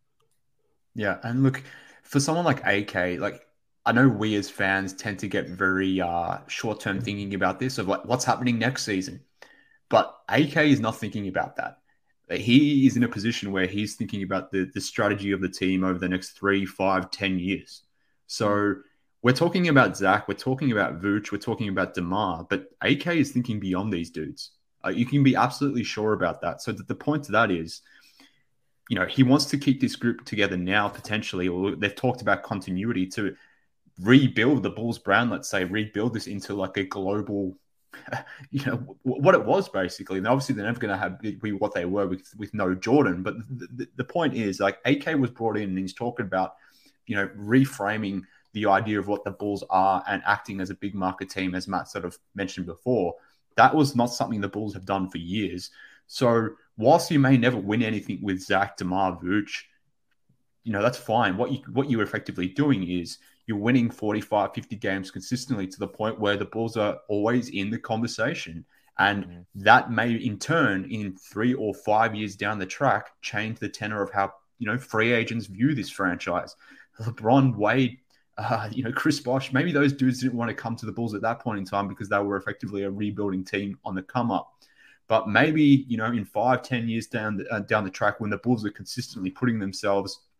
Yeah, and look, for someone like AK, like, I know we as fans tend to get very short-term thinking about this, of like what's happening next season. But AK is not thinking about that. He is in a position where he's thinking about the strategy of the team over the next 3, 5, 10 years. So we're talking about Zach, we're talking about Vooch, we're talking about DeMar, but AK is thinking beyond these dudes. You can be absolutely sure about that. So the point to that is, you know, he wants to keep this group together now, potentially, or they've talked about continuity to rebuild the Bulls brand, let's say, rebuild this into like a global, you know, what it was basically. And obviously they're never going to be what they were with no Jordan. But the point is, like, AK was brought in and he's talking about, you know, reframing the idea of what the Bulls are and acting as a big market team, as Matt sort of mentioned before. That was not something the Bulls have done for years. So whilst you may never win anything with Zach, DeMar, Vooch, you know, that's fine. What you're effectively doing is you're winning 45, 50 games consistently to the point where the Bulls are always in the conversation. And that may, in turn, in 3 or 5 years down the track, change the tenor of how, you know, free agents view this franchise. LeBron, Wade, you know, Chris Bosh, maybe those dudes didn't want to come to the Bulls at that point in time because they were effectively a rebuilding team on the come up. But maybe, you know, in 5, 10 years down the track, when the Bulls are consistently putting themselves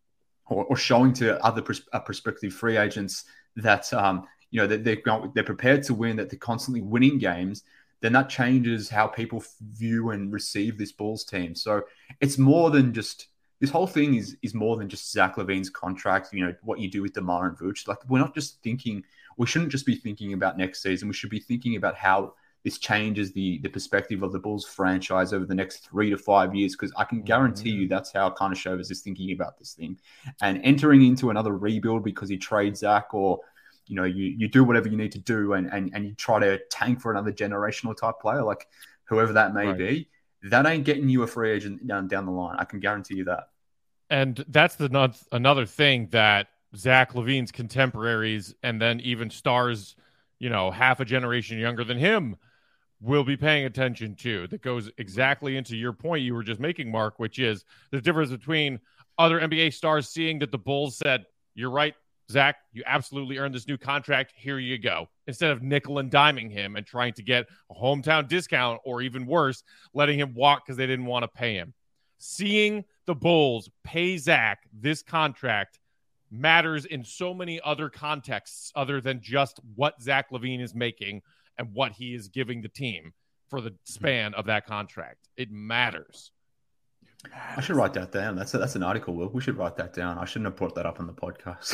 or showing to other prospective free agents that they're prepared to win, that they're constantly winning games, then that changes how people view and receive this Bulls team. So it's more than just this whole thing is more than just Zach LaVine's contract. What you do with DeMar and Vooch. Like, we're not just thinking. We shouldn't just be thinking about next season. We should be thinking about how this changes the perspective of the Bulls franchise over the next 3 to 5 years, because I can guarantee you that's how Karnisovas is thinking about this thing. And entering into another rebuild because you trade Zach, or you do whatever you need to do and you try to tank for another generational type player, like whoever that may be, that ain't getting you a free agent down the line. I can guarantee you that. And that's another thing that Zach LaVine's contemporaries, and then even stars, half a generation younger than him, will be paying attention to. That goes exactly into your point you were just making, Mark, which is the difference between other NBA stars seeing that the Bulls said, "You're right, Zach, you absolutely earned this new contract. Here you go." Instead of nickel and diming him and trying to get a hometown discount, or even worse, letting him walk because they didn't want to pay him. Seeing the Bulls pay Zach this contract matters in so many other contexts other than just what Zach LaVine is making and what he is giving the team for the span of that contract. It matters. I should write that down. That's an article, Will. We should write that down. I shouldn't have brought that up on the podcast.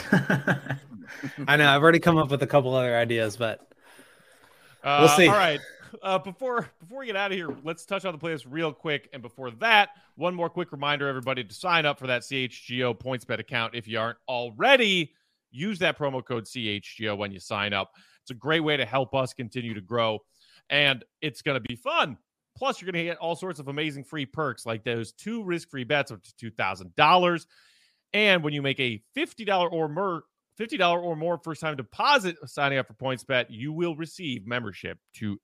I know. I've already come up with a couple other ideas, but we'll see. All right. Before we get out of here, let's touch on the playoffs real quick. And before that, one more quick reminder, everybody, to sign up for that CHGO PointsBet account. If you aren't already, use that promo code CHGO when you sign up. It's a great way to help us continue to grow, and it's going to be fun. Plus, you're going to get all sorts of amazing free perks, like those 2 risk-free bets up to $2,000. And when you make a $50 or more first-time deposit signing up for PointsBet, you will receive membership to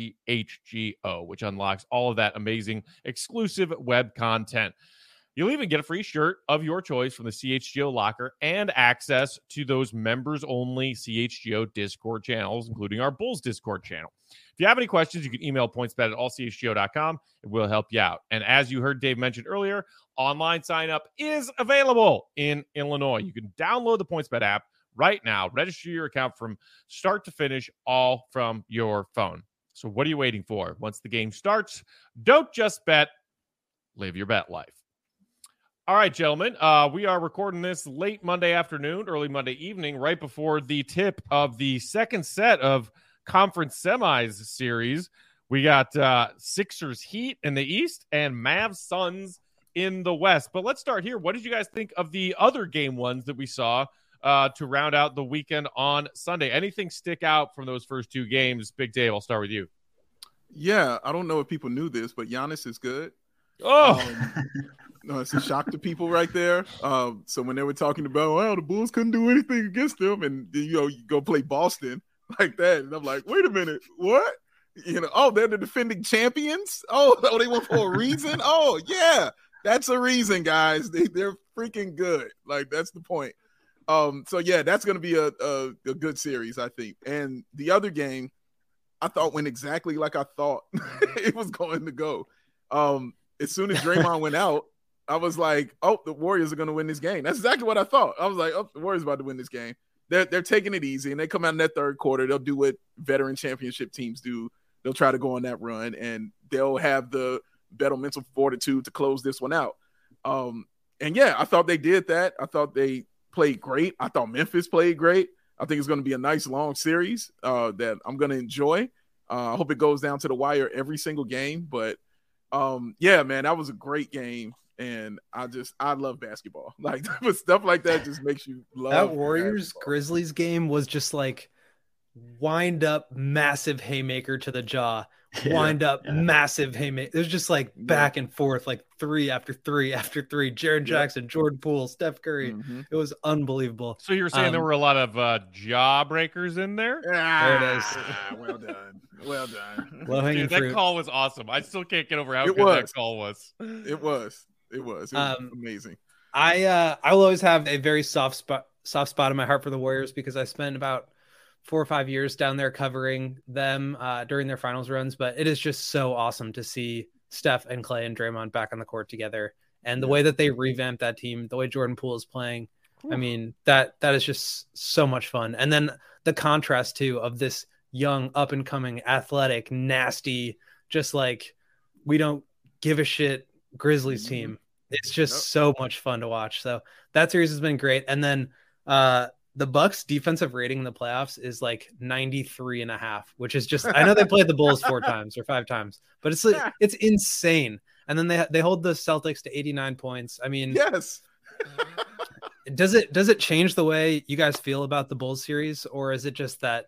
CHGO, which unlocks all of that amazing exclusive web content. You'll even get a free shirt of your choice from the CHGO locker and access to those members-only CHGO Discord channels, including our Bulls Discord channel. If you have any questions, you can email pointsbet@allchgo.com, and we'll help you out. And as you heard Dave mention earlier, online sign-up is available in Illinois. You can download the PointsBet app right now, register your account from start to finish, all from your phone. So what are you waiting for? Once the game starts, don't just bet, live your bet life. All right, gentlemen, we are recording this late Monday afternoon, early Monday evening, right before the tip of the second set of conference semis series. We got Sixers Heat in the East and Mavs Suns in the West. But let's start here. What did you guys think of the other game ones that we saw to round out the weekend on Sunday? Anything stick out from those first 2 games? Big Dave, I'll start with you. Yeah, I don't know if people knew this, but Giannis is good. No, it's a shock to people right there. So when they were talking about, well, the Bulls couldn't do anything against them, and you go play Boston like that, and I'm like, wait a minute, what? They're the defending champions. Oh, they went for a reason. Oh, yeah, that's a reason, guys. They're freaking good. Like, that's the point. So yeah, that's going to be a good series, I think. And the other game, I thought went exactly like I thought it was going to go. As soon as Draymond went out, I was like, oh, the Warriors are going to win this game. That's exactly what I thought. I was like, oh, the Warriors are about to win this game. They're taking it easy, and they come out in that third quarter. They'll do what veteran championship teams do. They'll try to go on that run, and they'll have the better mental fortitude to close this one out. And yeah, I thought they did that. I thought they played great. I thought Memphis played great. I think it's going to be a nice long series that I'm going to enjoy. I hope it goes down to the wire every single game. But yeah, man, that was a great game. And I love basketball. Like, stuff like that just makes you love that Warriors basketball. Grizzlies game was just like wind up, massive haymaker to the jaw, massive haymaker. It was just like back and forth, like 3 after 3 after 3. Jaren Jackson, Jordan Poole, Steph Curry. Mm-hmm. It was unbelievable. So you're saying there were a lot of jaw breakers in there? There it is. Well done. Well done. Low-hanging fruit. That call was awesome. I still can't get over how good that call was. It was amazing. I will always have a very soft spot in my heart for the Warriors because I spent about 4 or 5 years down there covering them during their finals runs. But it is just so awesome to see Steph and Clay and Draymond back on the court together, and the way that they revamped that team, the way Jordan Poole is playing. I mean, that is just so much fun. And then the contrast too of this young, up and coming, athletic, nasty, just like we don't give a shit Grizzlies team. It's just so much fun to watch. So that series has been great. And then the Bucks defensive rating in the playoffs is like 93.5, which is just, I know they played the Bulls 4 times or 5 times, but it's like, it's insane. And then they hold the Celtics to 89 points. I mean, yes. Does it change the way you guys feel about the Bulls series, or is it just that,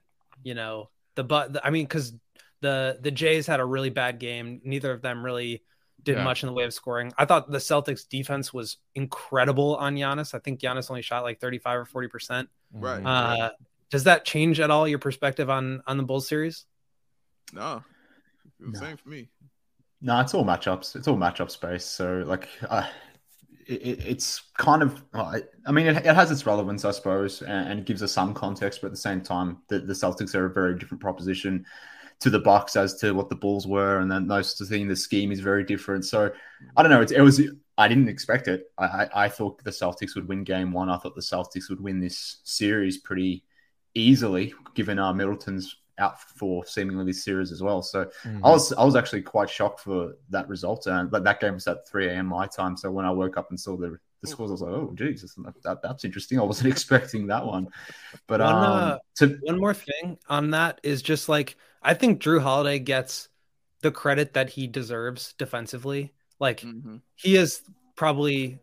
because the Jays had a really bad game. Neither of them really did much in the way of scoring. I thought the Celtics defense was incredible on Giannis. I think Giannis only shot like 35 or 40%. Right. Does that change at all your perspective on the Bulls series? No, same for me. No, it's all matchups. It's all matchup space. So like, it's kind of, I mean, it has its relevance, I suppose, and it gives us some context, but at the same time, the Celtics are a very different proposition to the Bucks as to what the Bulls were, and then those things, the scheme is very different. So I don't know. I didn't expect it. I thought the Celtics would win game 1. I thought the Celtics would win this series pretty easily, given Middleton's out for seemingly this series as well. So I was actually quite shocked for that result. But that game was at 3 a.m. my time. So when I woke up and saw the scores, I was like, oh, geez, that's interesting. I wasn't expecting that one. But one more thing on that is just like, I think Drew Holiday gets the credit that he deserves defensively. Like he is probably,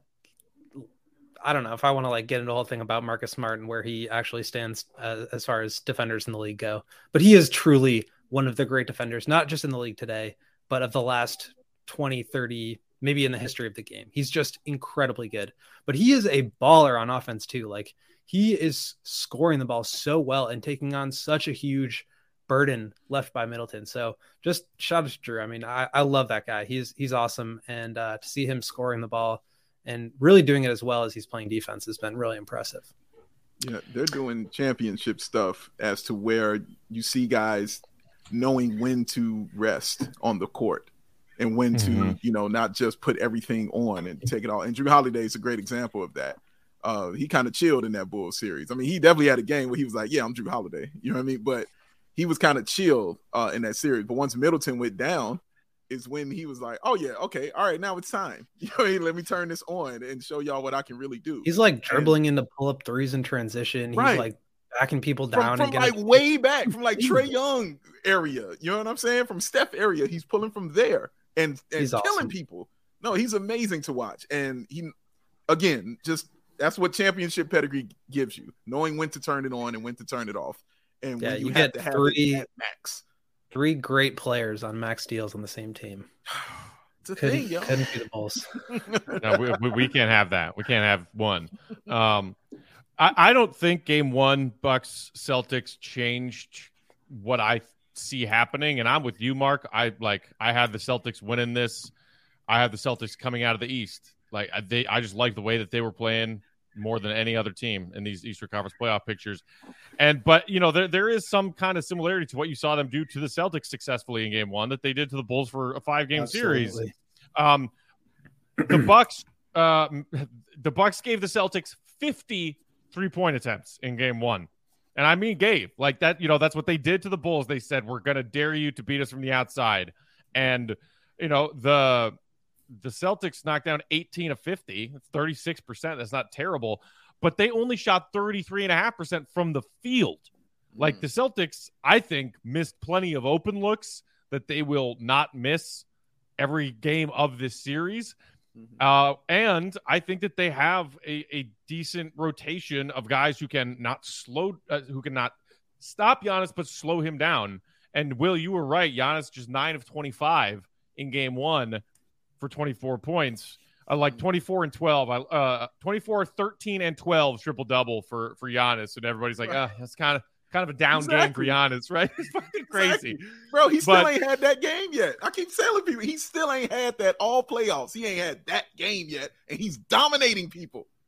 I don't know if I want to like get into a whole thing about Marcus Smart and where he actually stands as far as defenders in the league go, but he is truly one of the great defenders, not just in the league today, but of the last 20, 30, maybe in the history of the game. He's just incredibly good, but he is a baller on offense too. Like he is scoring the ball so well and taking on such a huge burden left by Middleton. So just shout out to Drew. I mean, I love that guy. He's awesome. And to see him scoring the ball and really doing it as well as he's playing defense has been really impressive. Yeah, they're doing championship stuff as to where you see guys knowing when to rest on the court and when to, not just put everything on and take it all. And Drew Holiday is a great example of that. He kind of chilled in that Bulls series. I mean, he definitely had a game where he was like, yeah, I'm Drew Holiday. You know what I mean? But he was kind of chill in that series. But once Middleton went down is when he was like, oh, yeah, okay, all right, now it's time. You know what I mean? Let me turn this on and show y'all what I can really do. He's like dribbling into pull-up threes in transition. He's like backing people down. From like way back, from like Trae Young area. You know what I'm saying? From Steph area. He's pulling from there and killing awesome. People. No, he's amazing to watch. And he, again, just that's what championship pedigree gives you, knowing when to turn it on and when to turn it off. And when you have to have it at max. 3 great players on max deals on the same team. It's a thing, yo. Couldn't be the Bulls. No, we can't have that. We can't have one. I don't think game 1 Bucks Celtics changed what I see happening, and I'm with you, Mark. I had the Celtics winning this. I had the Celtics coming out of the East. I just like the way that they were playing more than any other team in these Eastern Conference playoff pictures. But there is some kind of similarity to what you saw them do to the Celtics successfully in game 1 that they did to the Bulls for a 5-game series. The Bucks gave the Celtics 50 3-point attempts in game 1. And I mean, gave like that, that's what they did to the Bulls. They said, we're going to dare you to beat us from the outside. And, the Celtics knocked down 18 of 50. That's 36%. That's not terrible. But they only shot 33.5% from the field. Like the Celtics, I think, missed plenty of open looks that they will not miss every game of this series. And I think that they have a decent rotation of guys who can not stop Giannis, but slow him down. And Will, you were right. Giannis just 9 of 25 in game 1 for 24 points. Like 24 and 12, 24, 13 and 12 triple double for Giannis. And everybody's like, that's kind of a down game for Giannis, right? It's fucking crazy. Bro, he still ain't had that game yet. I keep telling people he still ain't had that all playoffs. He ain't had that game yet. And he's dominating people.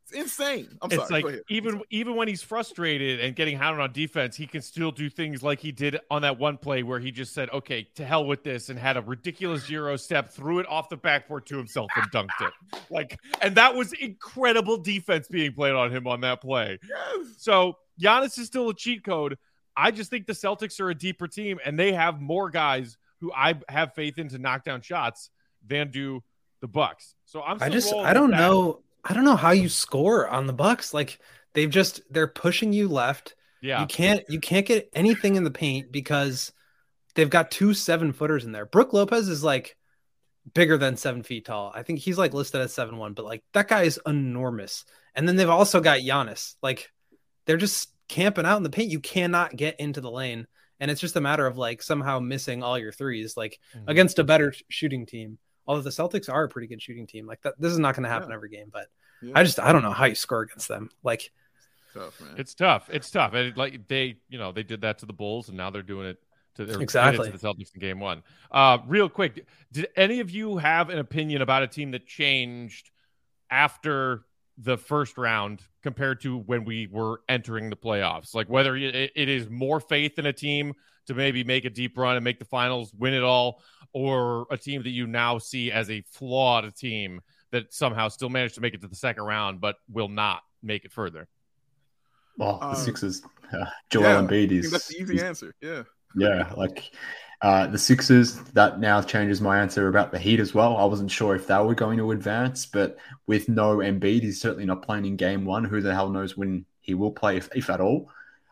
It's insane. It's sorry. like even when he's frustrated and getting hounded on defense, he can still do things like he did on that one play where he just said, "Okay, to hell with this," and had a ridiculous Euro step, threw it off the backboard to himself, and dunked it. And that was incredible defense being played on him on that play. Yes. So Giannis is still a cheat code. I just think the Celtics are a deeper team, and they have more guys who I have faith in to knock down shots than do the Bucks. So I don't know. I don't know how you score on the Bucks. Like they're pushing you left. Yeah. You can't get anything in the paint because they've got 2 7-footers in there. Brook Lopez is like bigger than 7 feet tall. I think he's like listed at 7'1", but like that guy is enormous. And then they've also got Giannis. Like they're just camping out in the paint. You cannot get into the lane. And it's just a matter of like somehow missing all your threes, like against a better shooting team. Although the Celtics are a pretty good shooting team, like that, this is not going to happen every game. But I don't know how you score against them. Like, tough, man. It's tough. And like they did that to the Bulls, and now they're doing it to the Celtics in Game 1. Real quick, did any of you have an opinion about a team that changed after the first round compared to when we were entering the playoffs? Like whether it is more faith in a team to maybe make a deep run and make the finals, win it all, or a team that you now see as a flawed team that somehow still managed to make it to the second round but will not make it further? Well, the Sixers, Joel Embiid is... that's the easy answer, yeah. Yeah, like the Sixers, that now changes my answer about the Heat as well. I wasn't sure if they were going to advance, but with no Embiid, he's certainly not playing in Game 1. Who the hell knows when he will play, if at all.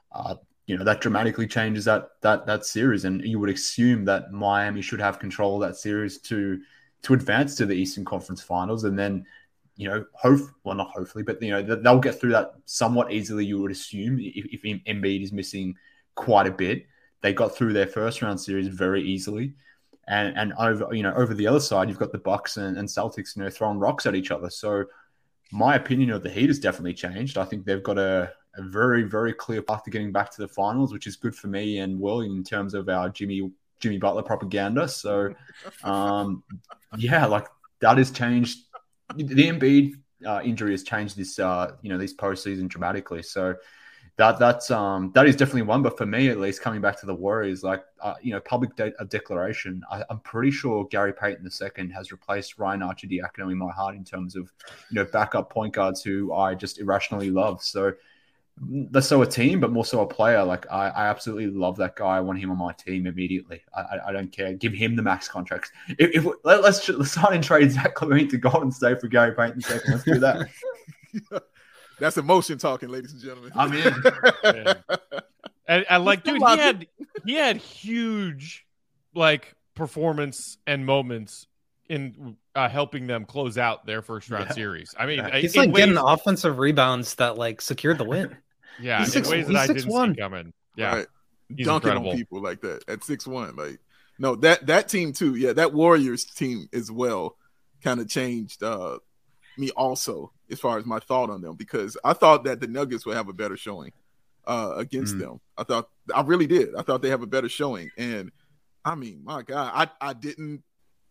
That dramatically changes that series, and you would assume that Miami should have control of that series to advance to the Eastern Conference Finals, and then not hopefully, but they'll get through that somewhat easily. You would assume if Embiid is missing quite a bit, they got through their first round series very easily, and over the other side you've got the Bucks and Celtics throwing rocks at each other. So my opinion of the Heat has definitely changed. I think they've got a very, very clear path to getting back to the finals, which is good for me and Will in terms of our Jimmy Butler propaganda. So, like that has changed. The Embiid injury has changed this, this postseason dramatically. So that is definitely one. But for me, at least, coming back to the Warriors, public declaration, I'm pretty sure Gary Payton II has replaced Ryan Arcidiacono in my heart in terms of backup point guards who I just irrationally love. So. Less so a team, but more so a player. Like I absolutely love that guy. I want him on my team immediately. I don't care. Give him the max contracts. Let's sign and trade Zach LaVine to Golden State for Gary Payton II. Let's do that. That's emotion talking, ladies and gentlemen. I'm in. And like, dude, he had huge performance and moments in helping them close out their first round series. I mean, he's getting offensive rebounds that secured the win. Yeah, in ways that I didn't see coming. Yeah, right. Dunking incredible on people like that at 6'1". No, that team too. Yeah, that Warriors team as well kind of changed me also as far as my thought on them, because I thought that the Nuggets would have a better showing against them. I really did. I thought they have a better showing, and I mean, my God, I didn't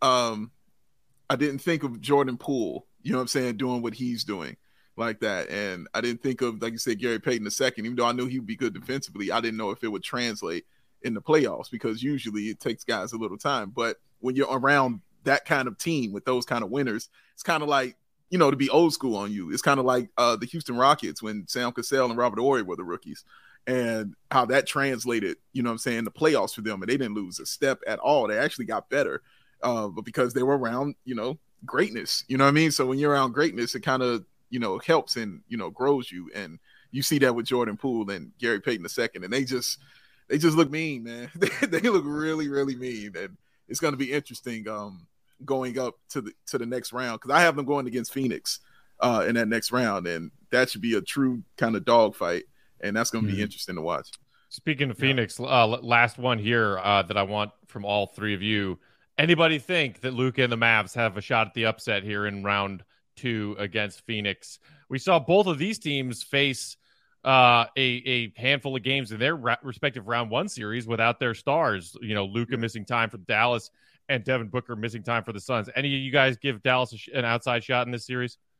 think of Jordan Poole, doing what he's doing like that. And I didn't think of, like you said, Gary Payton II, even though I knew he would be good defensively. I didn't know if it would translate in the playoffs, because usually it takes guys a little time. But when you're around that kind of team with those kind of winners, it's kind of like, to be old school on you. It's kind of like the Houston Rockets when Sam Cassell and Robert Horry were the rookies, and how that translated, the playoffs for them. And they didn't lose a step at all. They actually got better. But because they were around, greatness, So when you're around greatness, it kind of, helps and, grows you. And you see that with Jordan Poole and Gary Payton II, and they just look mean, man. they look really, really mean. And it's going to be interesting going up to the next round, because I have them going against Phoenix in that next round. And that should be a true kind of dogfight. And that's going to be interesting to watch. Speaking of Phoenix, last one here that I want from all three of you. Anybody think that Luka and the Mavs have a shot at the upset here in round 2 against Phoenix? We saw both of these teams face a handful of games in their respective round 1 series without their stars. Luka missing time for Dallas and Devin Booker missing time for the Suns. Any of you guys give Dallas an outside shot in this series?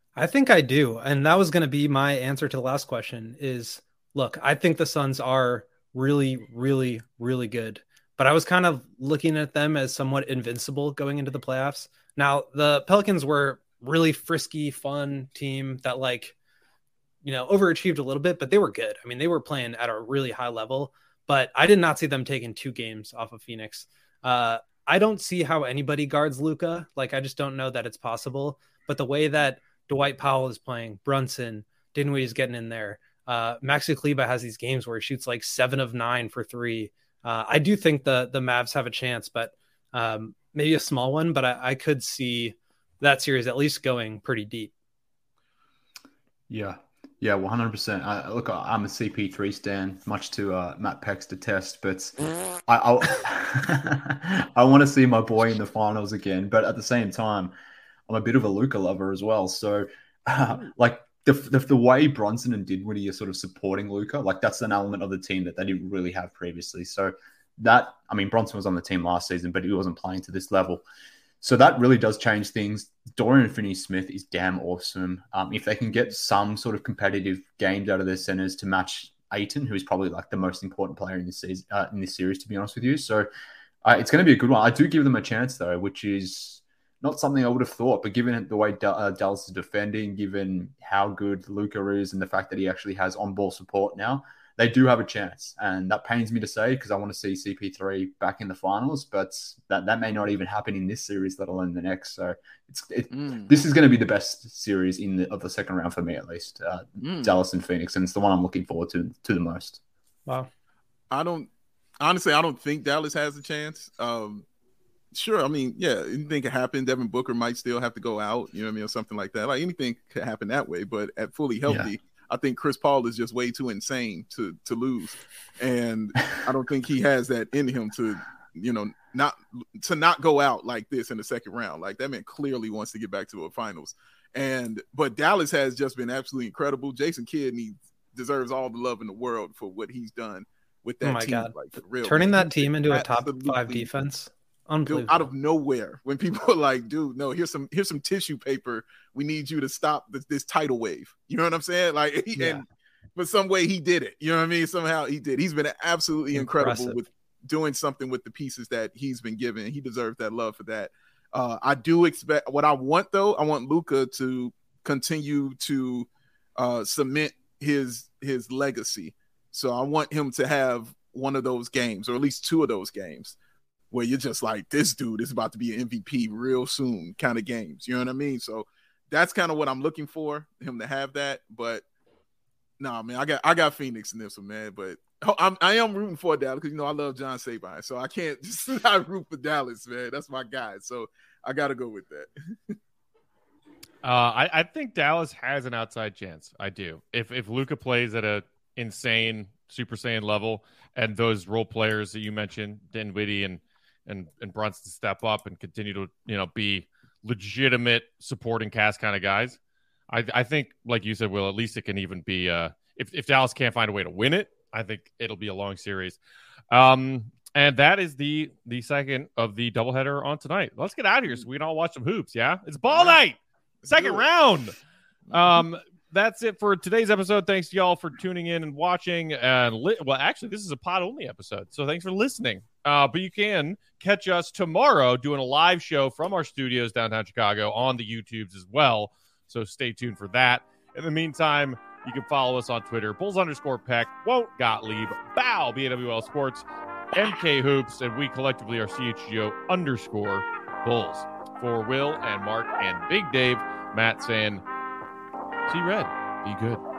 I think I do. And that was going to be my answer to the last question is, look, I think the Suns are really, really, really good. But I was kind of looking at them as somewhat invincible going into the playoffs. Now, the Pelicans were really frisky, fun team that overachieved a little bit, but they were good. I mean, they were playing at a really high level, but I did not see them taking 2 games off of Phoenix. I don't see how anybody guards Luka. I just don't know that it's possible. But the way that Dwight Powell is playing, Brunson, Dinwiddie's getting in there. Maxi Kleber has these games where he shoots 7 of 9 for 3. I do think the Mavs have a chance, but maybe a small one. But I could see that series at least going pretty deep. Yeah, 100%. Look, I'm a CP3 stan, much to Matt Peck's detest, but I want to see my boy in the finals again. But at the same time, I'm a bit of a Luka lover as well. So, the way Brunson and Dinwiddie are sort of supporting Luka, that's an element of the team that they didn't really have previously. So Brunson was on the team last season, but he wasn't playing to this level. So that really does change things. Dorian Finney-Smith is damn awesome. If they can get some sort of competitive games out of their centers to match Ayton, who is probably the most important player in this season, in this series, to be honest with you. So it's going to be a good one. I do give them a chance though, which is not something I would have thought, but given the way Dallas is defending, given how good Luka is and the fact that he actually has on-ball support now, they do have a chance. And that pains me to say because I want to see CP3 back in the finals, but that may not even happen in this series, let alone the next. So this is going to be the best series of the second round for me, at least. Dallas and Phoenix, and it's the one I'm looking forward to the most. Wow. I don't think Dallas has a chance. Sure, anything could happen. Devin Booker might still have to go out, or something like that. Anything could happen that way, but at fully healthy, I think Chris Paul is just way too insane to lose. And I don't think he has that in him to not go out like this in the second round. That man clearly wants to get back to a finals. But Dallas has just been absolutely incredible. Jason Kidd deserves all the love in the world for what he's done with that team. Oh my God. For real, turning that team into a top 5 defense. Dude, out of nowhere, when people are like, dude, no, here's some tissue paper. We need you to stop this tidal wave. You know what I'm saying? And for some way he did it. You know what I mean? Somehow he did. He's been absolutely incredible with doing something with the pieces that he's been given. He deserves that love for that. I do expect what I want though. I want Luka to continue to cement his legacy. So I want him to have one of those games, or at least 2 of those games, where you're just like, this dude is about to be an MVP real soon kind of games. You know what I mean? So that's kind of what I'm looking for, him to have that. But no, man, I got Phoenix in this one, man. But I am rooting for Dallas because, I love John Sabine. So I can't just not root for Dallas, man. That's my guy. So I got to go with that. I think Dallas has an outside chance. I do. If Luka plays at a insane Super Saiyan level and those role players that you mentioned, Dinwiddie and Brunson step up and continue to, be legitimate supporting cast kind of guys. I think, like you said, Will, at least it can even be if Dallas can't find a way to win it, I think it'll be a long series. And that is the second of the doubleheader on tonight. Let's get out of here so we can all watch some hoops. Yeah, it's ball night, second round. That's it for today's episode. Thanks to y'all for tuning in and watching. Actually, this is a pod-only episode, so thanks for listening. But you can catch us tomorrow doing a live show from our studios downtown Chicago on the YouTubes as well. So stay tuned for that. In the meantime, you can follow us on Twitter, Bulls_Peck, Won't Gottlieb, Bow, BAWL Sports, MK Hoops, and we collectively are CHGO_Bulls. For Will and Mark and Big Dave, Matt saying, see red, be good.